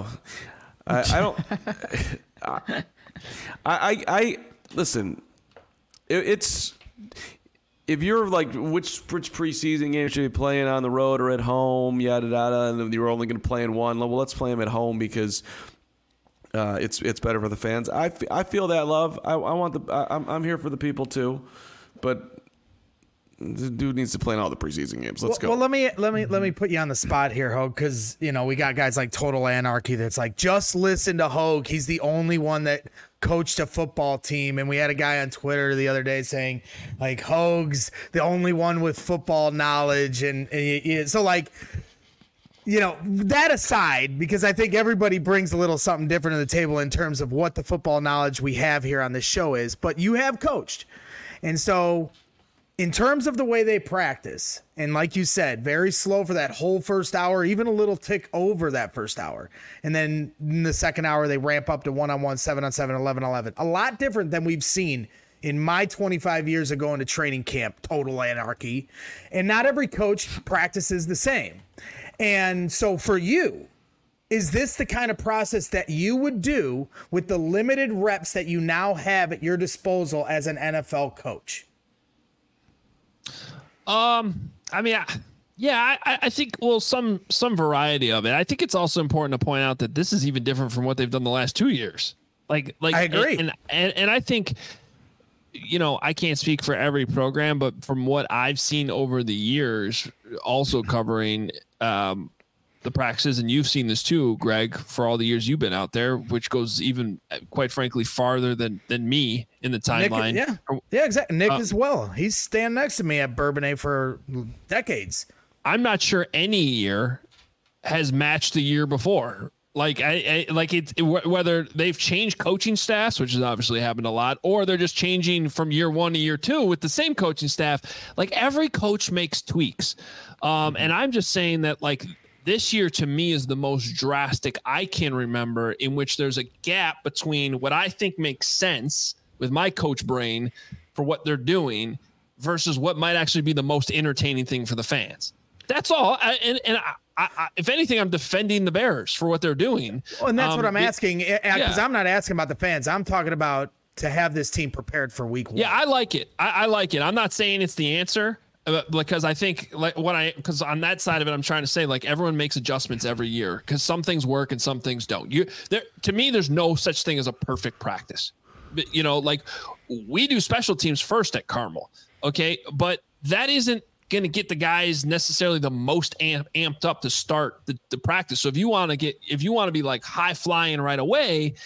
listen. It's. If you're like, which preseason game should be playing on the road or at home, yada yada, and you're only going to play in one, well, let's play them at home because it's better for the fans. I feel that love. I'm here for the people too, but the dude needs to play in all the preseason games. Let's go. Well, let me put you on the spot here, Hogue, because we got guys like Total Anarchy that's like, just listen to Hogue. He's the only one that coached a football team, and we had a guy on Twitter the other day saying like Hogue's the only one with football knowledge, and so like that aside, because I think everybody brings a little something different to the table in terms of what the football knowledge we have here on this show is, but you have coached, and so in terms of the way they practice, and like you said, very slow for that whole first hour, even a little tick over that first hour. And then in the second hour, they ramp up to 1-on-1, 7-on-7, 11-on-11. A lot different than we've seen in my 25 years of going to training camp, Total Anarchy. And not every coach practices the same. And so for you, is this the kind of process that you would do with the limited reps that you now have at your disposal as an NFL coach? I think, well, some variety of it. I think it's also important to point out that this is even different from what they've done the last 2 years. Like I agree. And I think I can't speak for every program, but from what I've seen over the years, also covering the practices, and you've seen this too, Greg, for all the years you've been out there, which goes even, quite frankly, farther than me in the timeline. Nick, yeah, exactly. Nick as well. He's standing next to me at Bourbonnais for decades. I'm not sure any year has matched the year before. Like whether they've changed coaching staffs, which has obviously happened a lot, or they're just changing from year 1 to year 2 with the same coaching staff. Like every coach makes tweaks. And I'm just saying that like this year to me is the most drastic I can remember, in which there's a gap between what I think makes sense with my coach brain for what they're doing versus what might actually be the most entertaining thing for the fans. That's all. I, if anything, I'm defending the Bears for what they're doing. Well, and that's what I'm asking, because I'm not asking about the fans. I'm talking about to have this team prepared for week 1. Yeah, I like it. I like it. I'm not saying it's the answer, because I think because on that side of it, I'm trying to say like everyone makes adjustments every year because some things work and some things don't. To me, there's no such thing as a perfect practice. Like we do special teams first at Carmel. Okay. But that isn't going to get the guys necessarily the most amped up to start the practice. So if you want to be like high flying right away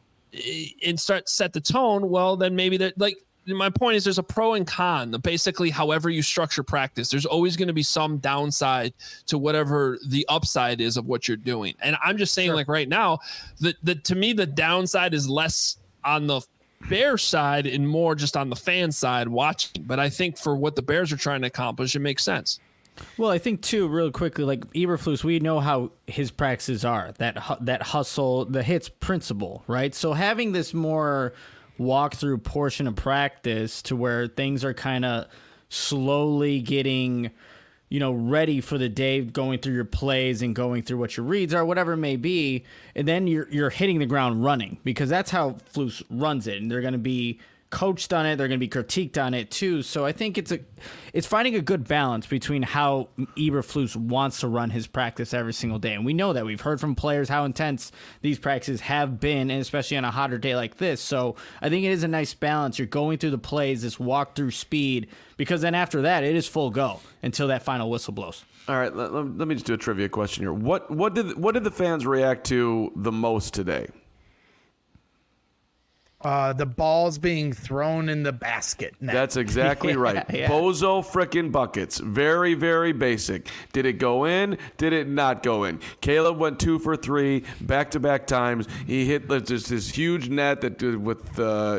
and set the tone, well, then maybe that, like, my point is there's a pro and con. Basically, however you structure practice, there's always going to be some downside to whatever the upside is of what you're doing. And I'm just saying, like right now, to me, the downside is less on the Bears side and more just on the fan side watching. But I think for what the Bears are trying to accomplish, it makes sense. Well, I think too, real quickly, like Eberflus, we know how his practices are, that hustle, the hits principle, right? So having this more walkthrough portion of practice to where things are kind of slowly getting, ready for the day, going through your plays and going through what your reads are, whatever it may be, and then you're hitting the ground running, because that's how Flus runs it, and they're going to be coached on it, they're going to be critiqued on it too. So I think it's finding a good balance between how Eberflus wants to run his practice every single day. And we know that. We've heard from players how intense these practices have been, and especially on a hotter day like this. So I think it is a nice balance. You're going through the plays, this walk through speed, because then after that, it is full go until that final whistle blows. All right, let me just do a trivia question here. What did the fans react to the most today? The balls being thrown in the basket. That's exactly right. Yeah. Bozo frickin' buckets. Very, very basic. Did it go in? Did it not go in? Caleb went 2 for 3 back-to-back times. He hit just this huge net that with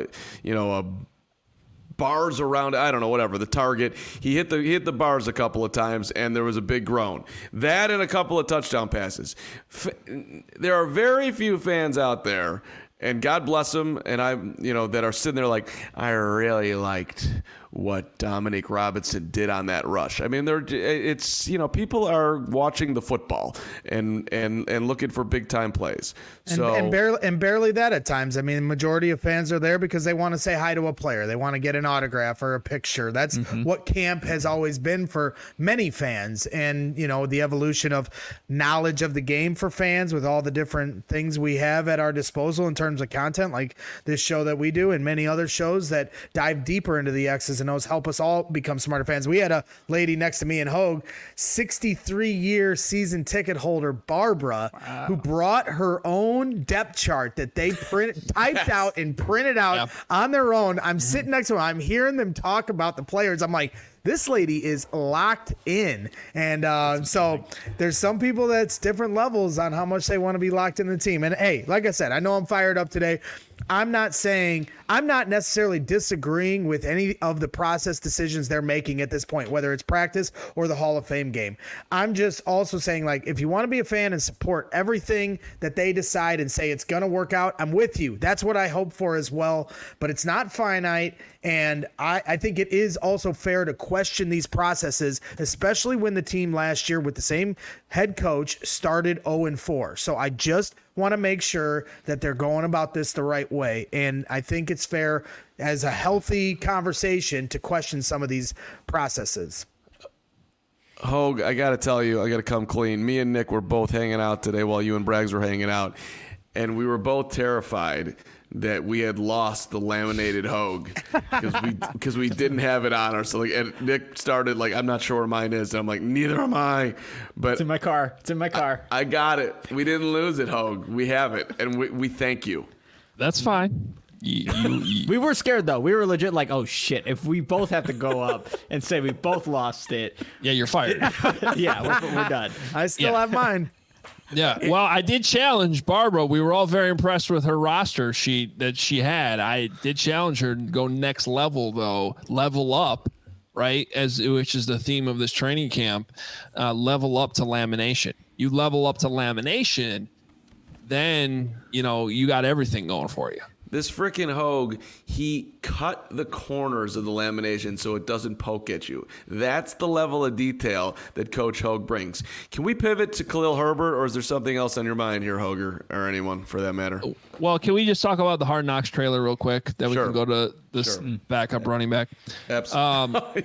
bars around, I don't know, whatever, the target. He hit the bars a couple of times, and there was a big groan. That and a couple of touchdown passes. There are very few fans out there, and God bless them, and that are sitting there like, I really liked what Dominique Robinson did on that rush. I mean, people are watching the football and looking for big time plays. And barely that at times. I mean, the majority of fans are there because they want to say hi to a player. They want to get an autograph or a picture. That's what camp has always been for many fans. And, the evolution of knowledge of the game for fans with all the different things we have at our disposal in terms of content, like this show that we do and many other shows that dive deeper into the X's and O's, help us all become smarter fans. We had a lady next to me in Hogue, 63-year season ticket holder, Barbara, who brought her own depth chart that they typed out and printed out on their own. I'm sitting next to her. I'm hearing them talk about the players. I'm like, this lady is locked in. And so there's some people that's different levels on how much they want to be locked in the team. And hey, like I said, I know I'm fired up today. I'm not necessarily disagreeing with any of the process decisions they're making at this point, whether it's practice or the Hall of Fame game. I'm just also saying, like, if you want to be a fan and support everything that they decide and say it's going to work out, I'm with you. That's what I hope for as well. But it's not finite. And I think it is also fair to question these processes, especially when the team last year with the same head coach started 0-4. So I just want to make sure that they're going about this the right way. And I think it's fair as a healthy conversation to question some of these processes. Hogue, I got to tell you, I got to come clean. Me and Nick were both hanging out today while you and Braggs were hanging out. and we were both terrified that we had lost the laminated Hogue because we didn't have it on us. So and Nick started like, I'm not sure where mine is. And I'm like, neither am I. But It's in my car. I got it. We didn't lose it, Hogue. We have it, and we thank you. That's fine. We were scared though. We were legit like, oh shit! If we both have to go up and say we both lost it, Yeah, you're fired. yeah, we're done. I still have mine. Yeah. Well, I did challenge Barbara. We were all very impressed with her roster sheet that she had. I did challenge her to go next level, though. Level up, right? Which is the theme of this training camp. Level up to lamination. You level up to lamination, then, you got everything going for you. This freaking Hogue, he cut the corners of the lamination so it doesn't poke at you. That's the level of detail that Coach Hogue brings. Can we pivot to Khalil Herbert, or is there something else on your mind here, Hogue, or anyone for that matter? Well, can we just talk about the Hard Knocks trailer real quick? Then we Sure. can go to this backup running back. Absolutely.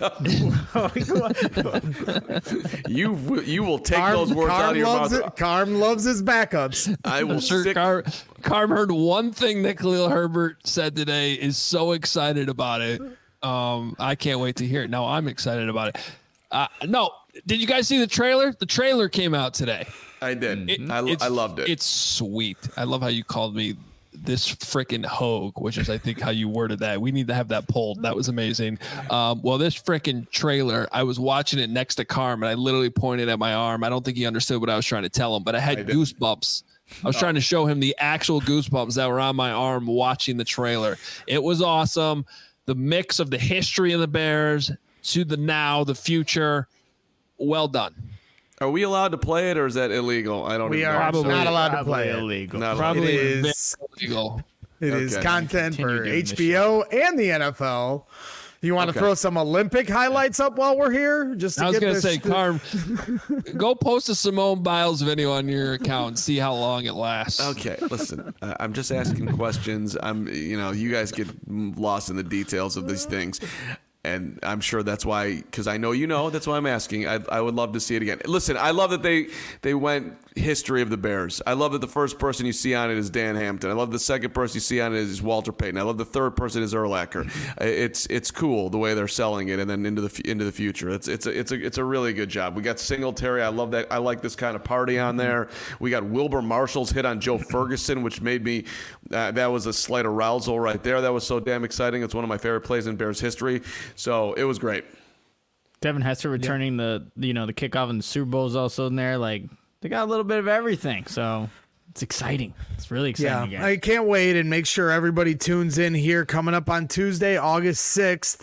You will take those words out of your mouth. Carm loves his backups. I will I'm sure Carm heard one thing that Khalil Herbert said today, is so excited about it. I can't wait to hear it. Now I'm excited about it. No, did you guys see the trailer? The trailer came out today. I did. I loved it. It's sweet. I love how you called me this freaking Hogue, which is, I think, how you worded that. We need to have that pulled. That was amazing. Well, this freaking trailer, I was watching it next to Carm, and I literally pointed at my arm. I don't think he understood what I was trying to tell him, but I had goosebumps. I was trying to show him the actual goosebumps that were on my arm watching the trailer. It was awesome. The mix of the history of the Bears to the now, the future. Well done. Are we allowed to play it, or is that illegal? I don't We even are know. Probably- not allowed to play it. illegal. Not Probably It is- illegal. It is Okay. content Continue for doing this HBO and the NFL. You want to Okay. throw some Olympic highlights up while we're here? Just to I was get going to this- say, Carm, go post a Simone Biles video on your account and see how long it lasts. Okay, listen. I'm just asking questions. You guys get lost in the details of these things. And I'm sure that's why, because I know that's why I'm asking. I would love to see it again. Listen, I love that they went history of the Bears. I love that the first person you see on it is Dan Hampton. I love the second person you see on it is Walter Payton. I love the third person is Urlacher. It's cool the way they're selling it, and then into the future. It's a really good job. We got Singletary. I love that. I like this kind of party on there. We got Wilbur Marshall's hit on Joe Ferguson, which made me that was a slight arousal right there. That was so damn exciting. It's one of my favorite plays in Bears history. So it was great. Devin Hester returning the kickoff and the Super Bowl is also in there. Like, they got a little bit of everything. So it's exciting. It's really exciting. Yeah, again. I can't wait, and make sure everybody tunes in here coming up on Tuesday, August 6th,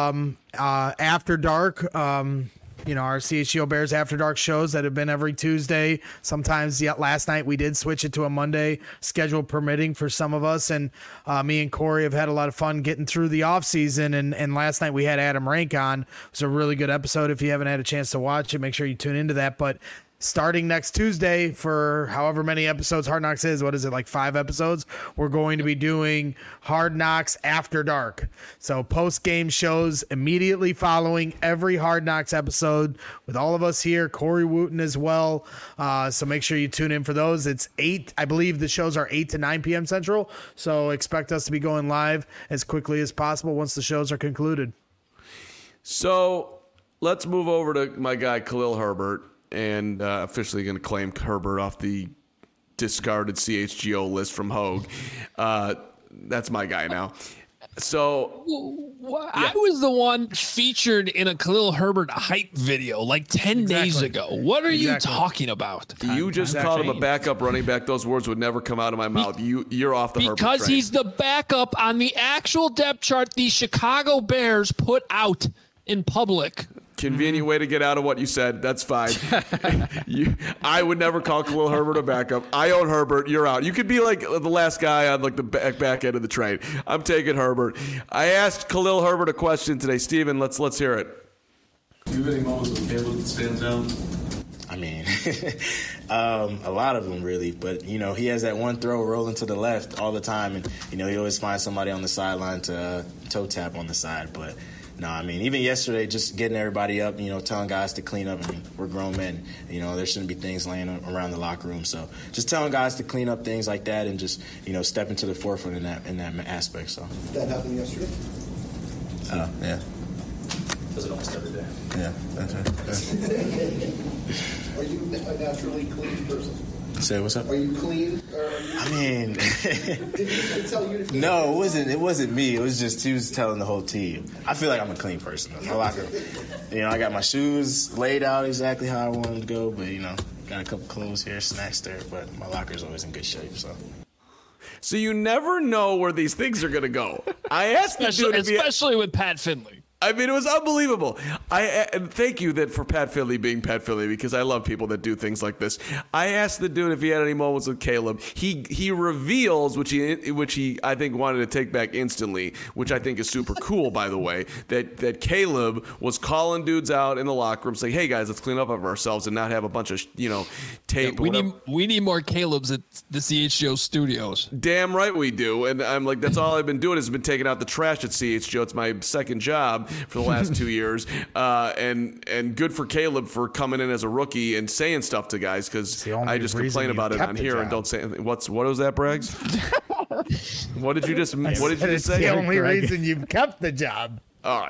after dark. Our CHGO Bears After Dark shows that have been every Tuesday. Sometimes, last night we did switch it to a Monday, schedule permitting for some of us. And me and Corey have had a lot of fun getting through the offseason. And last night we had Adam Rank on. It was a really good episode. If you haven't had a chance to watch it, make sure you tune into that. But starting next Tuesday for however many episodes Hard Knocks is, what is it, like 5 episodes? We're going to be doing Hard Knocks After Dark. So post-game shows immediately following every Hard Knocks episode with all of us here, Corey Wooten as well. So make sure you tune in for those. It's 8, I believe the shows are 8 to 9 p.m. Central. So expect us to be going live as quickly as possible once the shows are concluded. So let's move over to my guy Khalil Herbert. And officially going to claim Herbert off the discarded CHGO list from Hogue. That's my guy now. So I was the one featured in a Khalil Herbert hype video like 10 days ago. What are you talking about? you just called him a backup running back. Those words would never come out of my mouth. You're off the Herbert train. Because he's the backup on the actual depth chart the Chicago Bears put out in public. Convenient way to get out of what you said. That's fine. I would never call Khalil Herbert a backup. I own Herbert. You're out. You could be like the last guy on like the back end of the train. I'm taking Herbert. I asked Khalil Herbert a question today. Steven, let's hear it. Do you have any moments with Caleb that stands out? I mean, a lot of them really, but he has that one throw rolling to the left all the time, and he always finds somebody on the sideline to toe tap on the side, but no, I mean, even yesterday, just getting everybody up, telling guys to clean up. I mean, we're grown men. There shouldn't be things laying around the locker room. So just telling guys to clean up things like that and just, step into the forefront in that aspect. So that happened yesterday? Yeah. Does it almost every day? Yeah, that's right. Yeah. Are you a naturally clean person? Say what's up? Are you clean? I mean, did he tell you to clean? No, it wasn't me. It was just he was telling the whole team. I feel like I'm a clean person. My locker, I got my shoes laid out exactly how I wanted to go, but got a couple clothes here, snacks there, but my locker's always in good shape. So you never know where these things are going to go. I asked the dude, especially with Pat Finley. I mean, it was unbelievable. And thank you for Pat Finley being Pat Finley, because I love people that do things like this. I asked the dude if he had any moments with Caleb. He reveals, which he I think wanted to take back instantly, which I think is super cool, by the way, that Caleb was calling dudes out in the locker room saying, "Hey guys, let's clean up of ourselves and not have a bunch of tape." Yeah, we need more Calebs at the CHGO studios. Damn right we do. And I'm like, that's all I've been doing has been taking out the trash at CHGO. It's my second job for the last 2 years, and good for Caleb for coming in as a rookie and saying stuff to guys, because I just complain about it on here and don't say anything. What was that, Braggs? What did you just say? It's the only reason you've kept the job. Oh,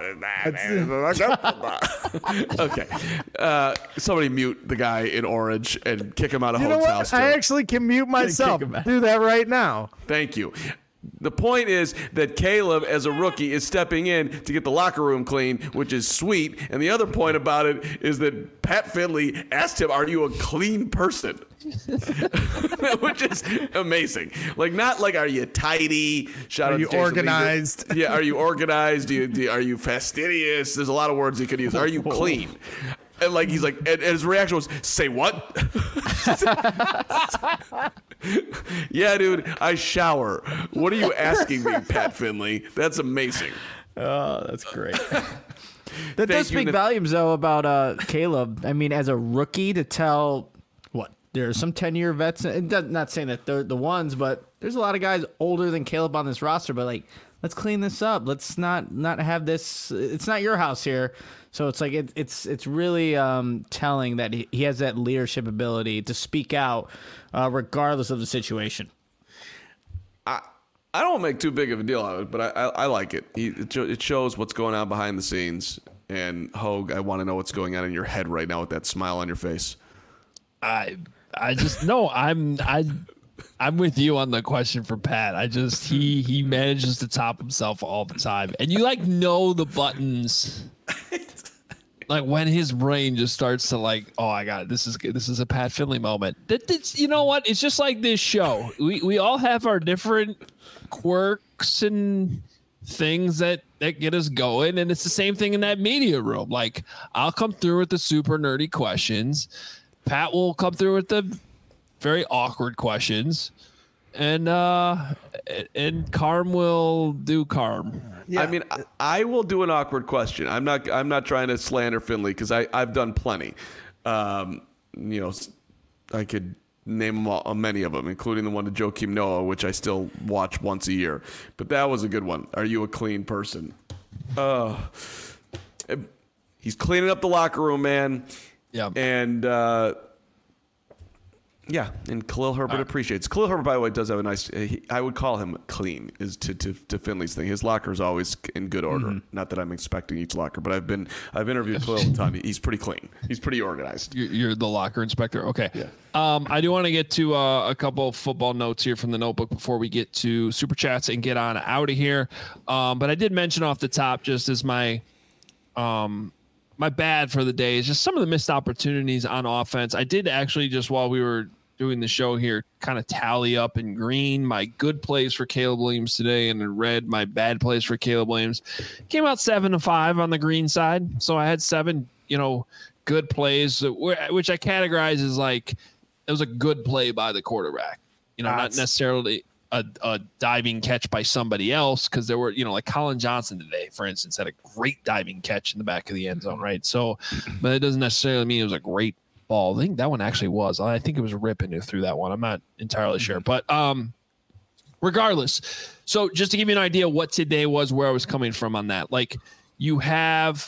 okay. Somebody mute the guy in orange and kick him out of Hope's house. I actually can mute myself. Do that right now. Thank you. The point is that Caleb, as a rookie, is stepping in to get the locker room clean, which is sweet. And the other point about it is that Pat Finley asked him, "Are you a clean person?" Which is amazing. Like, not like, "Are you tidy?" Are you organized? Yeah, are you organized? Are you fastidious? There's a lot of words he could use. Are you clean? And like, he's like, and his reaction was, "Say what?" Yeah, dude, I shower. What are you asking me, Pat Finley? That's amazing. Oh, that's great. That does speak volumes, though, about Caleb. I mean, as a rookie, to tell there are some 10-year vets. Not saying that they're the ones, but there's a lot of guys older than Caleb on this roster. But like, let's clean this up. Let's not have this. It's not your house here. So it's like it's really telling that he has that leadership ability to speak out regardless of the situation. I don't make too big of a deal out of it, but I like it. It shows what's going on behind the scenes. And Hogue, I want to know what's going on in your head right now with that smile on your face. I just no. I'm with you on the question for Pat. He manages to top himself all the time, and you know the buttons. Like, when his brain just starts to oh, I got it. This is a Pat Finley moment. You know what? It's just like this show. We all have our different quirks and things that get us going, and it's the same thing in that media room. Like, I'll come through with the super nerdy questions. Pat will come through with the very awkward questions, and Carm will do Carm. Yeah. I mean, I will do an awkward question. I'm not trying to slander Finley, because I've done plenty. I could name them many of them, including the one to Joakim Noah, which I still watch once a year. But that was a good one. Are you a clean person? He's cleaning up the locker room, man. Yeah. And and Khalil Herbert appreciates. Khalil Herbert, by the way, does have a nice. I would call him clean. Is to Finley's thing. His locker is always in good order. Mm-hmm. Not that I'm expecting each locker, but I've interviewed Khalil a ton. He's pretty clean. He's pretty organized. You're the locker inspector. Okay. Yeah. I do want to get to a couple of football notes here from the notebook before we get to super chats and get on out of here. But I did mention off the top, just as my bad for the day, is just some of the missed opportunities on offense. I did actually, just while we were doing the show here, kind of tally up in green my good plays for Caleb Williams today, and in red my bad plays for Caleb Williams. Came out 7-5 on the green side, so I had 7 good plays, which I categorize as like, it was a good play by the quarterback, not necessarily a diving catch by somebody else, because there were, like Colin Johnson today, for instance, had a great diving catch in the back of the end zone, right? So, but it doesn't necessarily mean it was a great ball. I think that one actually was. I think it was Rippon who threw that one. I'm not entirely sure, but regardless. So just to give you an idea what today was, where I was coming from on that, like, you have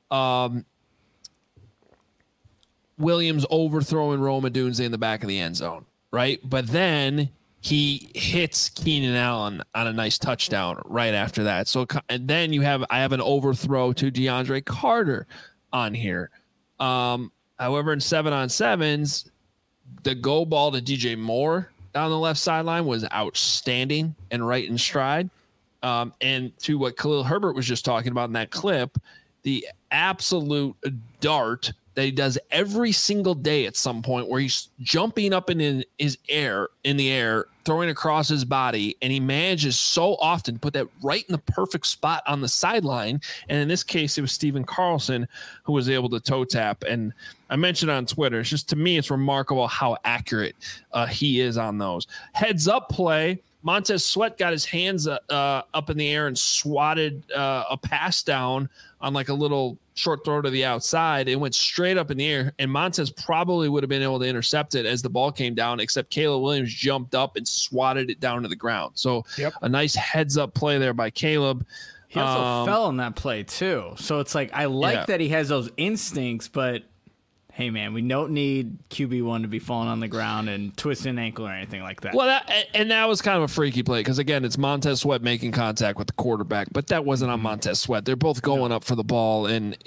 Williams overthrowing Rome Odunze in the back of the end zone, right? But then he hits Keenan Allen on a nice touchdown right after that. So, and then I have an overthrow to DeAndre Carter on here. However, in 7-on-7s, the go ball to DJ Moore down the left sideline was outstanding and right in stride. And to what Khalil Herbert was just talking about in that clip, the absolute dart that he does every single day at some point where he's jumping up in the air, throwing across his body, and he manages so often to put that right in the perfect spot on the sideline. And in this case, it was Steven Carlson who was able to toe tap. And I mentioned on Twitter, it's just, to me, it's remarkable how accurate he is on those. Heads up play, Montez Sweat got his hands up in the air and swatted a pass down on like a little short throw to the outside. It went straight up in the air, and Montez probably would have been able to intercept it as the ball came down, except Caleb Williams jumped up and swatted it down to the ground. So a nice heads up play there by Caleb. He also fell in that play too. So it's like, I like that he has those instincts, but hey man, we don't need QB1 to be falling on the ground and twisting an ankle or anything like that. Well, that was kind of a freaky play because, again, it's Montez Sweat making contact with the quarterback, but that wasn't on Montez Sweat. They're both going up for the ball, and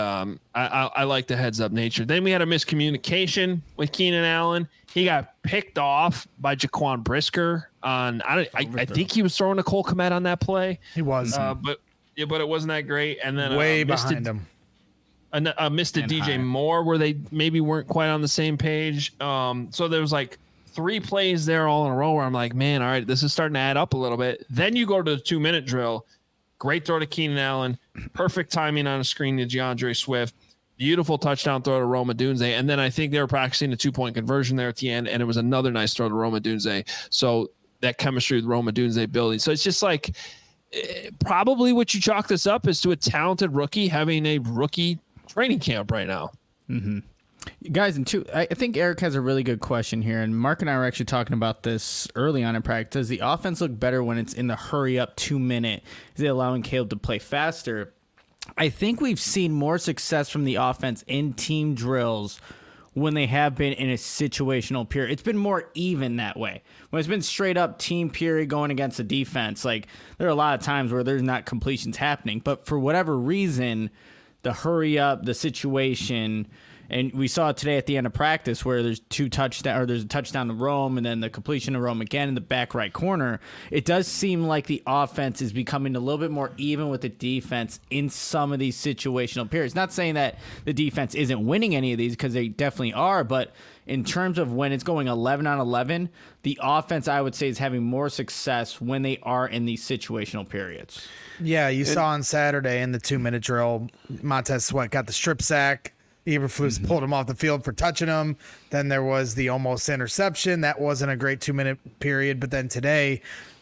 I like the heads-up nature. Then we had a miscommunication with Keenan Allen. He got picked off by Jaquan Brisker on I think he was throwing a Cole Kmet on that play. He was. But it wasn't that great. And then way behind him. Missed a DJ Moore where they maybe weren't quite on the same page. So there was like 3 plays there all in a row where I'm like, man, all right, this is starting to add up a little bit. Then you go to the 2-minute drill. Great throw to Keenan Allen. Perfect timing on a screen to DeAndre Swift. Beautiful touchdown throw to Rome Odunze. And then I think they were practicing a 2-point conversion there at the end, and it was another nice throw to Rome Odunze. So that chemistry with Rome Odunze building. So it's just like probably what you chalk this up is to a talented rookie having a rookie training camp right now. Mm-hmm. Guys, I think Eric has a really good question here, and Mark and I were actually talking about this early on in practice. Does the offense look better when it's in the hurry-up 2-minute? Is it allowing Caleb to play faster? I think we've seen more success from the offense in team drills when they have been in a situational period. It's been more even that way. When it's been straight up team period going against the defense, like there are a lot of times where there's not completions happening, but for whatever reason, the hurry up, the situation, and we saw it today at the end of practice where there's there's a touchdown to Rome and then the completion to Rome again in the back right corner. It does seem like the offense is becoming a little bit more even with the defense in some of these situational periods. Not saying that the defense isn't winning any of these, because they definitely are, but in terms of when it's going 11 on 11, the offense, I would say, is having more success when they are in these situational periods. Yeah, you saw on Saturday in the 2-minute drill, Montez Sweat got the strip sack. Eberflus pulled him off the field for touching him. Then there was the almost interception. That wasn't a great 2-minute period. But then today,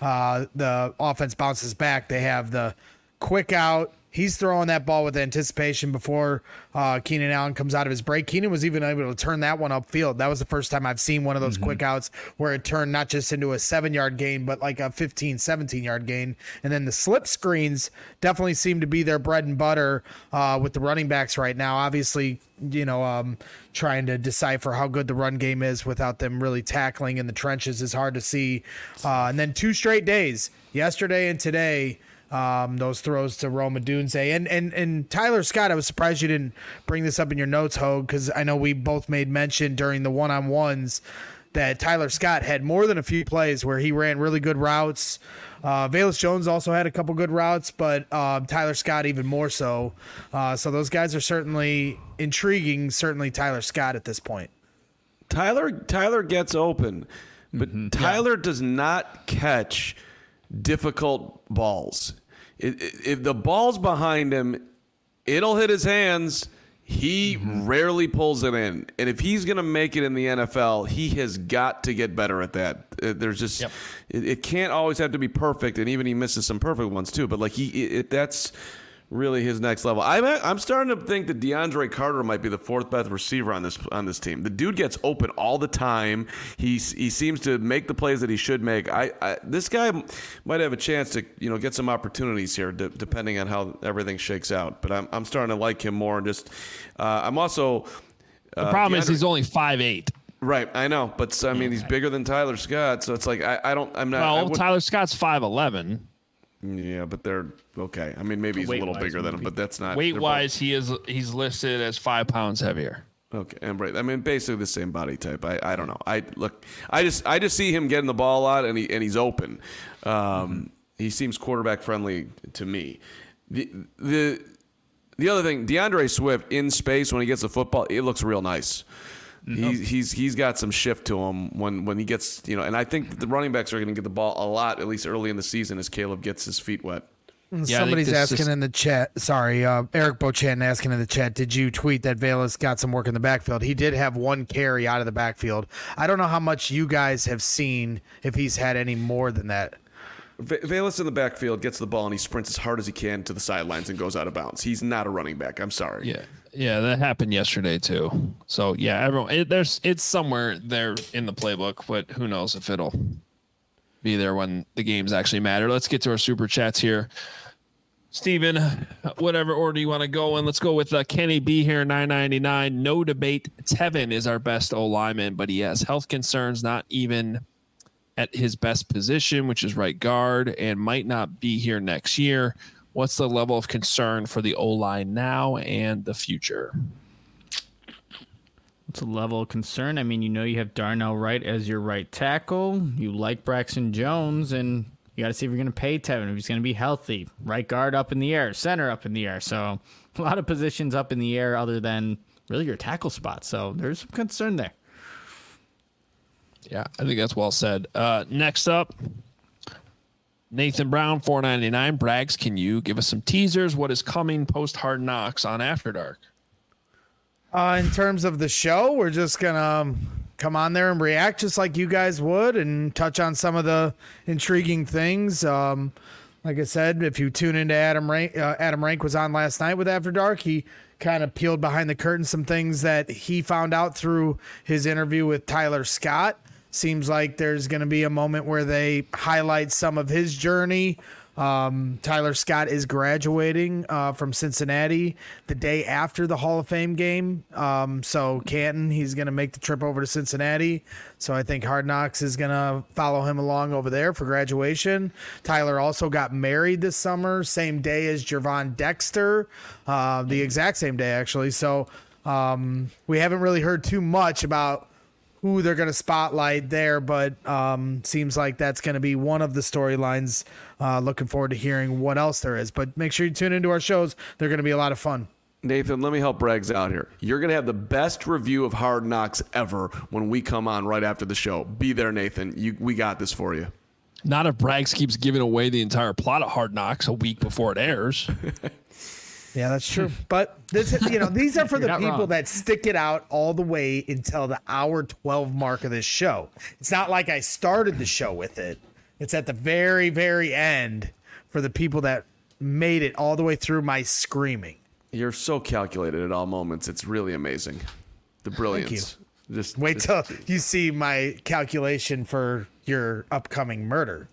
the offense bounces back. They have the quick out. He's throwing that ball with anticipation before Keenan Allen comes out of his break. Keenan was even able to turn that one upfield. That was the first time I've seen one of those quick outs where it turned not just into a 7-yard gain, but like a 15, 17-yard gain. And then the slip screens definitely seem to be their bread and butter with the running backs right now. Obviously, trying to decipher how good the run game is without them really tackling in the trenches is hard to see. And then 2 straight days, yesterday and today, those throws to Rome Odunze and Tyler Scott. I was surprised you didn't bring this up in your notes, Hogue, because I know we both made mention during the one-on-ones that Tyler Scott had more than a few plays where he ran really good routes. Velus Jones also had a couple good routes, but Tyler Scott even more so. So those guys are certainly intriguing, certainly Tyler Scott at this point. Tyler gets open, but Tyler does not catch difficult balls. If the ball's behind him, it'll hit his hands. He rarely pulls it in. And if he's going to make it in the NFL, he has got to get better at that. There's just it can't always have to be perfect, and even he misses some perfect ones too. But like that's really his next level. I'm starting to think that DeAndre Carter might be the fourth best receiver on this team. The dude gets open all the time. He seems to make the plays that he should make. This guy might have a chance to get some opportunities here, depending on how everything shakes out. But I'm starting to like him more. And just I'm also the problem is he's only 5'8". Right, I know, but I mean he's bigger than Tyler Scott, so it's like I'm not. Well, Tyler Scott's 5'11". Yeah, but they're okay. I mean, maybe he's a little bigger than him, but that's not weight-wise. He's listed as 5 pounds heavier. Okay, and right. I mean, basically the same body type. I don't know. I just see him getting the ball a lot, and he's open. He seems quarterback friendly to me. The other thing, DeAndre Swift in space when he gets the football, it looks real nice. He's got some shift to him when he gets, and I think that the running backs are going to get the ball a lot, at least early in the season, as Caleb gets his feet wet. Somebody's asking in the chat. Sorry, Eric Bochan asking in the chat. Did you tweet that Velus got some work in the backfield? He did have one carry out of the backfield. I don't know how much you guys have seen, if he's had any more than that. Velus in the backfield gets the ball and he sprints as hard as he can to the sidelines and goes out of bounds. He's not a running back. I'm sorry. Yeah, that happened yesterday too. So yeah, everyone, it's somewhere there in the playbook, but who knows if it'll be there when the games actually matter. Let's get to our super chats here. Steven, whatever order you want to go in, let's go with Kenny B here, $9.99. No debate, Tevin is our best O-lineman, but he has health concerns, not even at his best position, which is right guard, and might not be here next year. What's the level of concern for the O-line now and the future? What's the level of concern? I mean, you have Darnell Wright as your right tackle. You like Braxton Jones, and you got to see if you're going to pay Tevin, if he's going to be healthy. Right guard up in the air, center up in the air. So a lot of positions up in the air other than really your tackle spot. So there's some concern there. Yeah, I think that's well said. Next up, Nathan Brown, $4.99. Braggs, can you give us some teasers? What is coming post Hard Knocks on After Dark? In terms of the show, we're just going to come on there and react just like you guys would and touch on some of the intriguing things. Like I said, if you tune into Adam Rank was on last night with After Dark. He kind of peeled behind the curtain some things that he found out through his interview with Tyler Scott. Seems like there's going to be a moment where they highlight some of his journey. Tyler Scott is graduating from Cincinnati the day after the Hall of Fame game. So Canton, he's going to make the trip over to Cincinnati. So I think Hard Knocks is going to follow him along over there for graduation. Tyler also got married this summer, same day as Gervon Dexter, the exact same day, actually. So we haven't really heard too much about who they're going to spotlight there, but seems like that's going to be one of the storylines. Looking forward to hearing what else there is. But make sure you tune into our shows. They're going to be a lot of fun. Nathan, let me help Braggs out here. You're going to have the best review of Hard Knocks ever when we come on right after the show. Be there, Nathan. We got this for you. Not if Braggs keeps giving away the entire plot of Hard Knocks a week before it airs. Yeah, that's true. But this, these are for the people that stick it out all the way until the hour 12 mark of this show. It's not like I started the show with it. It's at the very, very end for the people that made it all the way through my screaming. You're so calculated at all moments. It's really amazing. The brilliance. Thank you. Just wait till you see my calculation for your upcoming murder.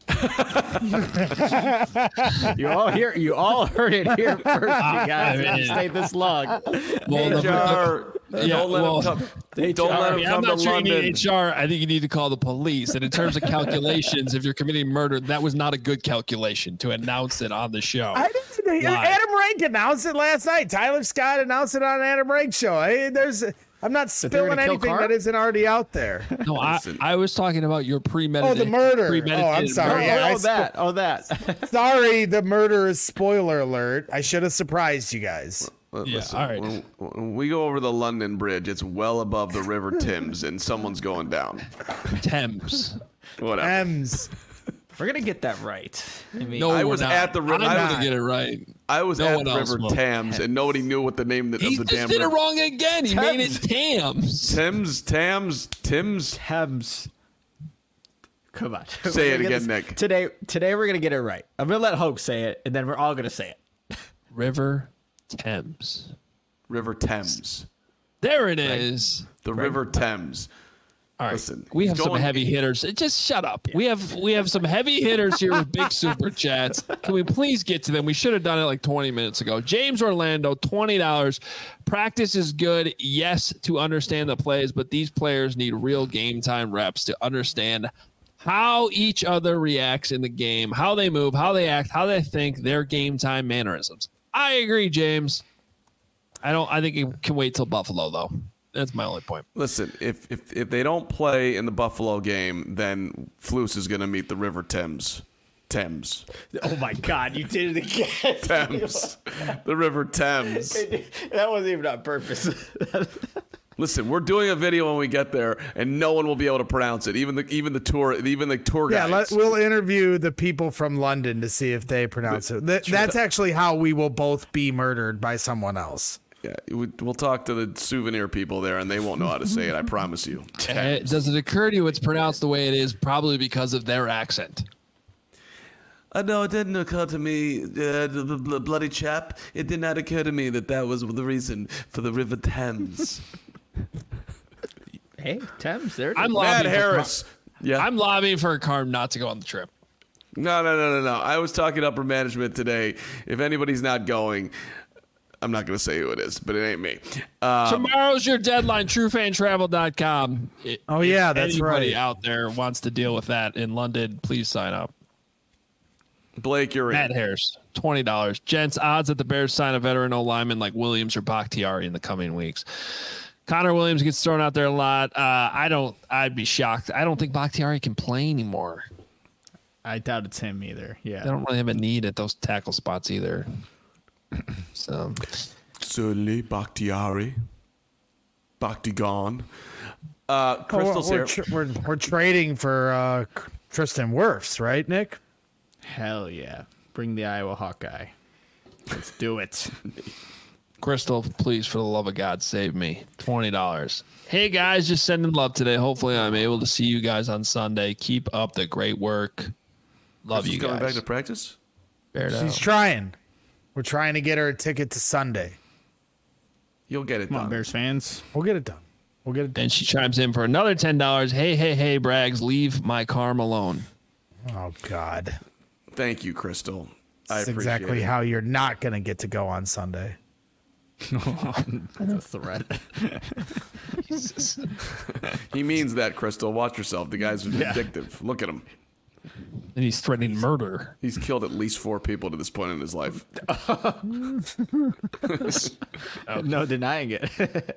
You all heard it here first, you guys. If you stayed this long. HR, don't let him come to London. You need HR. I think you need to call the police. And in terms of calculations, if you're committing murder, that was not a good calculation to announce it on the show. Adam Rank announced it last night. Tyler Scott announced it on Adam Rank show. I'm not spilling anything that isn't already out there. No, I was talking about your premeditated. Oh, the murder. Oh, I'm sorry. That. Sorry, the murder is spoiler alert. I should have surprised you guys. Listen, all right. when we go over the London Bridge, it's well above the River Thames, and someone's going down. Thames. Whatever. Thames. We're gonna get that right. I was at the river. I'm gonna get it right. I was at the River Thames, and nobody knew what the name of the damn river. He just did it wrong again. He made it Thames. Thames. Come on. Say it again, Nick. Today we're gonna get it right. I'm gonna let Hoke say it, and then we're all gonna say it. River Thames. River Thames. There it is. The River Thames. All right, Listen, we have some going- heavy hitters. Just shut up. We have some heavy hitters here with big super chats. Can we please get to them? We should have done it like 20 minutes ago. James Orlando, $20. Practice is good, yes, to understand the plays, but these players need real game time reps to understand how each other reacts in the game, how they move, how they act, how they think, their game time mannerisms. I agree, James. I think it can wait till Buffalo though. That's my only point. Listen, if they don't play in the Buffalo game, then Flus is going to meet the River Thames. Thames. Oh my God, you did it again. Thames. The River Thames. That wasn't even on purpose. Listen, we're doing a video when we get there, and no one will be able to pronounce it. Even the tour guides. We'll interview the people from London to see if they pronounce it. That's actually how we will both be murdered by someone else. Yeah, we'll talk to the souvenir people there, and they won't know how to say it. I promise you. Does it occur to you it's pronounced the way it is probably because of their accent? No, it didn't occur to me, bloody chap. It did not occur to me that was the reason for the River Thames. Hey, Thames, there it is. I'm Matt lobbying Harris. Yeah. I'm lobbying for a Carm not to go on the trip. No. I was talking to upper management today. If anybody's not going, I'm not going to say who it is, but it ain't me. Tomorrow's your deadline, truefantravel.com. Oh, yeah, that's anybody right. out there wants to deal with that in London, please sign up. Blake, you're Matt in. Harris, $20. Gents, odds that the Bears sign a veteran O-lineman like Williams or Bakhtiari in the coming weeks. Connor Williams gets thrown out there a lot. I'd be shocked. I don't think Bakhtiari can play anymore. I doubt it's him either. They Yeah. don't really have a need at those tackle spots either. So Certainly, Bakhtiari. Bakhtigan. Crystal's here. We're trading for Tristan Wirfs, right, Nick? Hell yeah. Bring the Iowa Hawkeye. Let's do it. Crystal, please, for the love of God, save me. $20. Hey, guys, just sending love today. Hopefully, I'm able to see you guys on Sunday. Keep up the great work. Love Crystal's you coming back guys. to practice? Bear down. She's trying. We're trying to get her a ticket to Sunday. You'll get it Come on, done. Bears fans. We'll get it done. And she chimes in for another $10. Hey, Braggs, leave my Carm alone. Oh, God. Thank you, Crystal. I That's appreciate exactly it. how you're not going to get to go on Sunday. That's a threat. He means that, Crystal. Watch yourself. The guy's vindictive. Look at him. And he's threatening murder. He's killed at least 4 people to this point in his life. No denying it.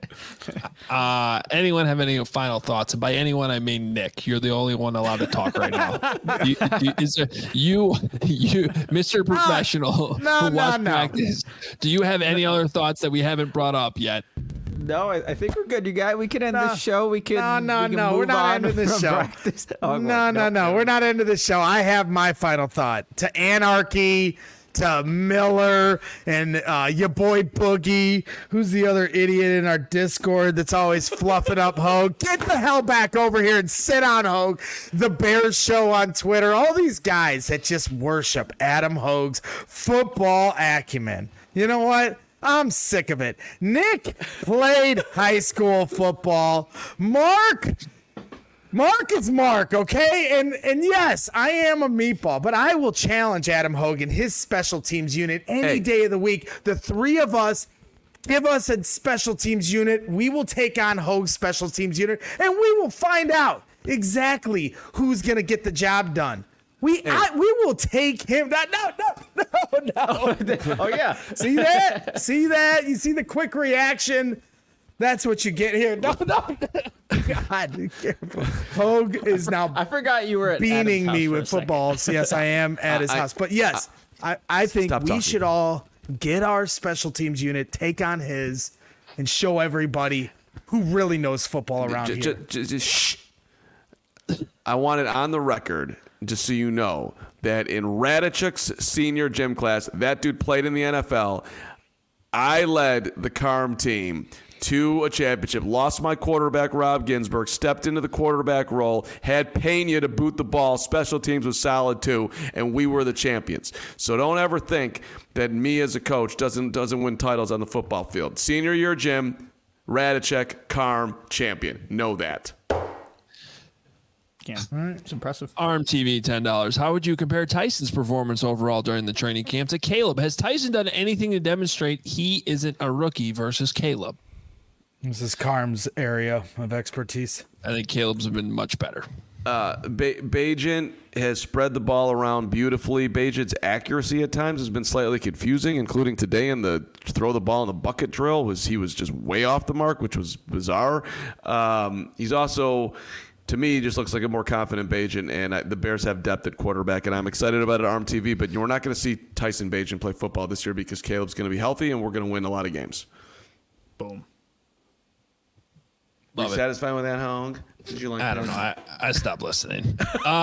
Anyone have any final thoughts? And by anyone, I mean Nick. You're the only one allowed to talk right now. You, Mr. Professional, no, who watched no. practice, do you have any other thoughts that we haven't brought up yet? No, I think we're good. You guys, we can end this show. We can. No. We can We're move not on ending this from show. practice. Oh, No. We're not into this show. I have my final thought. To Anarchy, to Miller, and your boy Boogie, who's the other idiot in our Discord that's always fluffing up Hogue. Get the hell back over here and sit on Hogue. The Bears Show on Twitter. All these guys that just worship Adam Hogue's football acumen. You know what? I'm sick of it. Nick played high school football. Mark is Mark, okay? And yes, I am a meatball, but I will challenge Adam Hogan, his special teams unit, any day of the week. The three of us, give us a special teams unit. We will take on Hogan's special teams unit, and we will find out exactly who's going to get the job done. We will take him. No. Oh yeah. See that? See that? You see the quick reaction? That's what you get here. No. God, be careful. Hogue is now I forgot you were at beaning Adam's me house for with a second. football. So yes, I am at his house. But yes, I think Stop we talking. should all get our special teams unit, take on his, and show everybody who really knows football around here. Just shh. I want it on the record, just so you know, that in Radichuk's senior gym class, that dude played in the NFL. I led the Carm team to a championship. Lost my quarterback, Rob Ginsburg, stepped into the quarterback role, had Pena to boot the ball. Special teams was solid too, and we were the champions. So don't ever think that me as a coach doesn't win titles on the football field. Senior year, Jim, Radicek, Carm, champion. Know that. Yeah, it's impressive. Arm TV, $10. How would you compare Tyson's performance overall during the training camp to Caleb? Has Tyson done anything to demonstrate he isn't a rookie versus Caleb? This is Carm's area of expertise. I think Caleb's been much better. Bagent has spread the ball around beautifully. Bagent's accuracy at times has been slightly confusing, including today in the throw the ball in the bucket drill. He was just way off the mark, which was bizarre. He's also... To me, he just looks like a more confident Bagent, and the Bears have depth at quarterback, and I'm excited about it, Arm TV, but we're not going to see Tyson Bagent play football this year because Caleb's going to be healthy, and we're going to win a lot of games. Boom. Are you satisfied with that, Hong? Did you like I don't know. I stopped listening.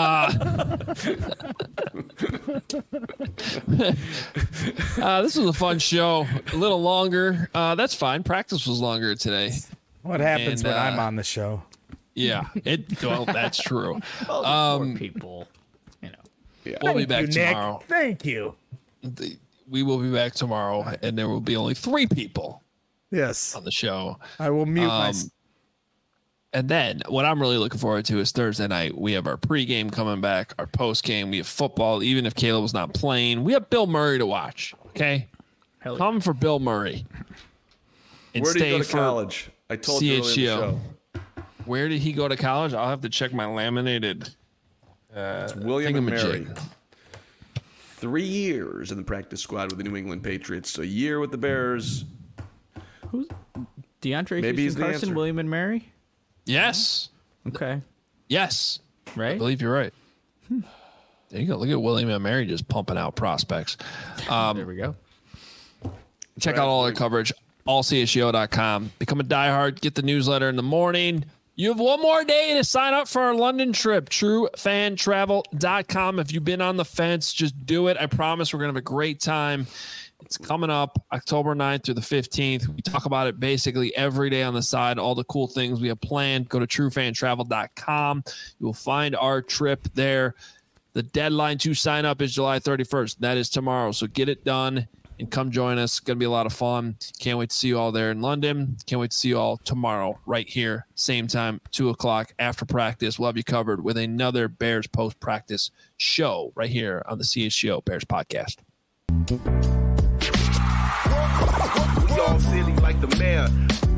This was a fun show. A little longer. That's fine. Practice was longer today. What happens when I'm on the show? Yeah, well, that's true. Poor people, Yeah. We'll be back Nick. tomorrow. Thank you. We will be back tomorrow, and there will be only 3 people Yes, on the show. I will mute myself. And then what I'm really looking forward to is Thursday night. We have our pregame coming back, our postgame. We have football, even if Caleb's not playing. We have Bill Murray to watch, okay? Come for Bill Murray. And Where did stay he go to for college? I told you earlier in the show. Where did he go to college? I'll have to check my laminated. It's William and Mary. thingamajig. 3 years in the practice squad with the New England Patriots. A year with the Bears. Who's DeAndre Maybe he's Houston, the Carson, answer. William and Mary? Yes. Okay. Yes. I Right? believe you're right. There you go. Look at William and Mary just pumping out prospects. There we go. Check out all our coverage, allcsgo.com. Become a diehard. Get the newsletter in the morning. You have one more day to sign up for our London trip, truefantravel.com. If you've been on the fence, just do it. I promise we're going to have a great time. It's coming up October 9th through the 15th. We talk about it basically every day on the side, all the cool things we have planned. Go to truefantravel.com. You will find our trip there. The deadline to sign up is July 31st. That is tomorrow. So get it done and come join us. It's going to be a lot of fun. Can't wait to see you all there in London. Can't wait to see you all tomorrow right here, same time, 2 o'clock after practice. We'll have you covered with another Bears post-practice show right here on the CHGO Bears podcast. We all silly like the mayor.